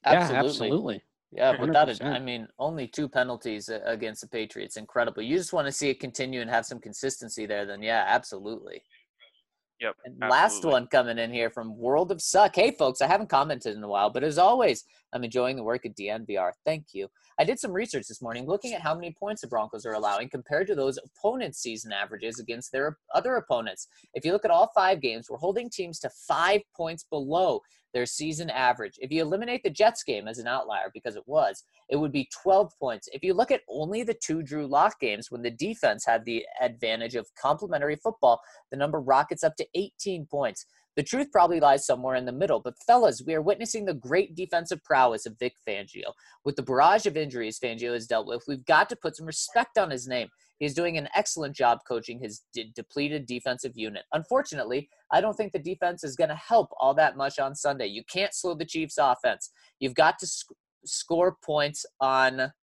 Absolutely. Yeah, without it, 100%. I mean, only 2 penalties against the Patriots. Incredible. You just want to see it continue and have some consistency there, then yeah, absolutely. Yep. And absolutely. last one coming in here from World of Suck. Hey, folks, I haven't commented in a while, but as always, I'm enjoying the work at DNVR. Thank you. I did some research this morning looking at how many points the Broncos are allowing compared to those opponents' season averages against their other opponents. If you look at all 5 games, we're holding teams to 5 points below their season average. If you eliminate the Jets game as an outlier, because it would be 12 points. If you look at only the 2 Drew Lock games when the defense had the advantage of complementary football, the number rockets up to 18 points. The truth probably lies somewhere in the middle, but fellas, we are witnessing the great defensive prowess of Vic Fangio. With the barrage of injuries Fangio has dealt with, we've got to put some respect on his name. He's doing an excellent job coaching his depleted defensive unit. Unfortunately, I don't think the defense is going to help all that much on Sunday. You can't slow the Chiefs' offense. You've got to score points on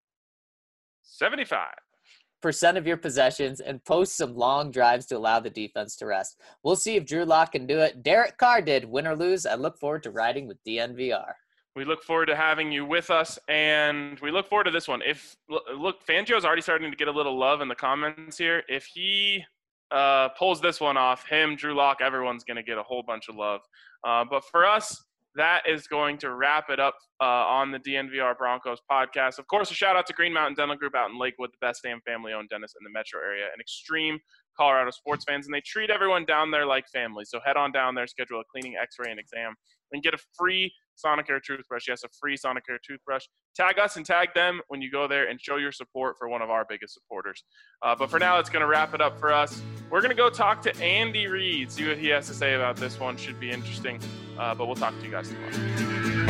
75% of your possessions and post some long drives to allow the defense to rest. We'll see if Drew Lock can do it. Derek Carr did. Win or lose, I look forward to riding with DNVR. We look forward to having you with us, and we look forward to this one. Fangio's already starting to get a little love in the comments here. If he pulls this one off, Drew Lock, everyone's going to get a whole bunch of love. But for us, that is going to wrap it up on the DNVR Broncos podcast. Of course, a shout out to Green Mountain Dental Group out in Lakewood, the best damn family-owned dentist in the metro area, and extreme Colorado sports fans, and they treat everyone down there like family. So head on down there, schedule a cleaning, x-ray, and exam, and get a free Sonicare toothbrush. Yes, a free Sonicare toothbrush. Tag us and tag them when you go there and show your support for one of our biggest supporters. But for now, it's going to wrap it up for us. We're going to go talk to Andy Reid, see what he has to say about this one. Should be interesting. But we'll talk to you guys tomorrow.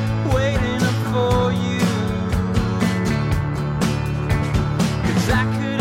I could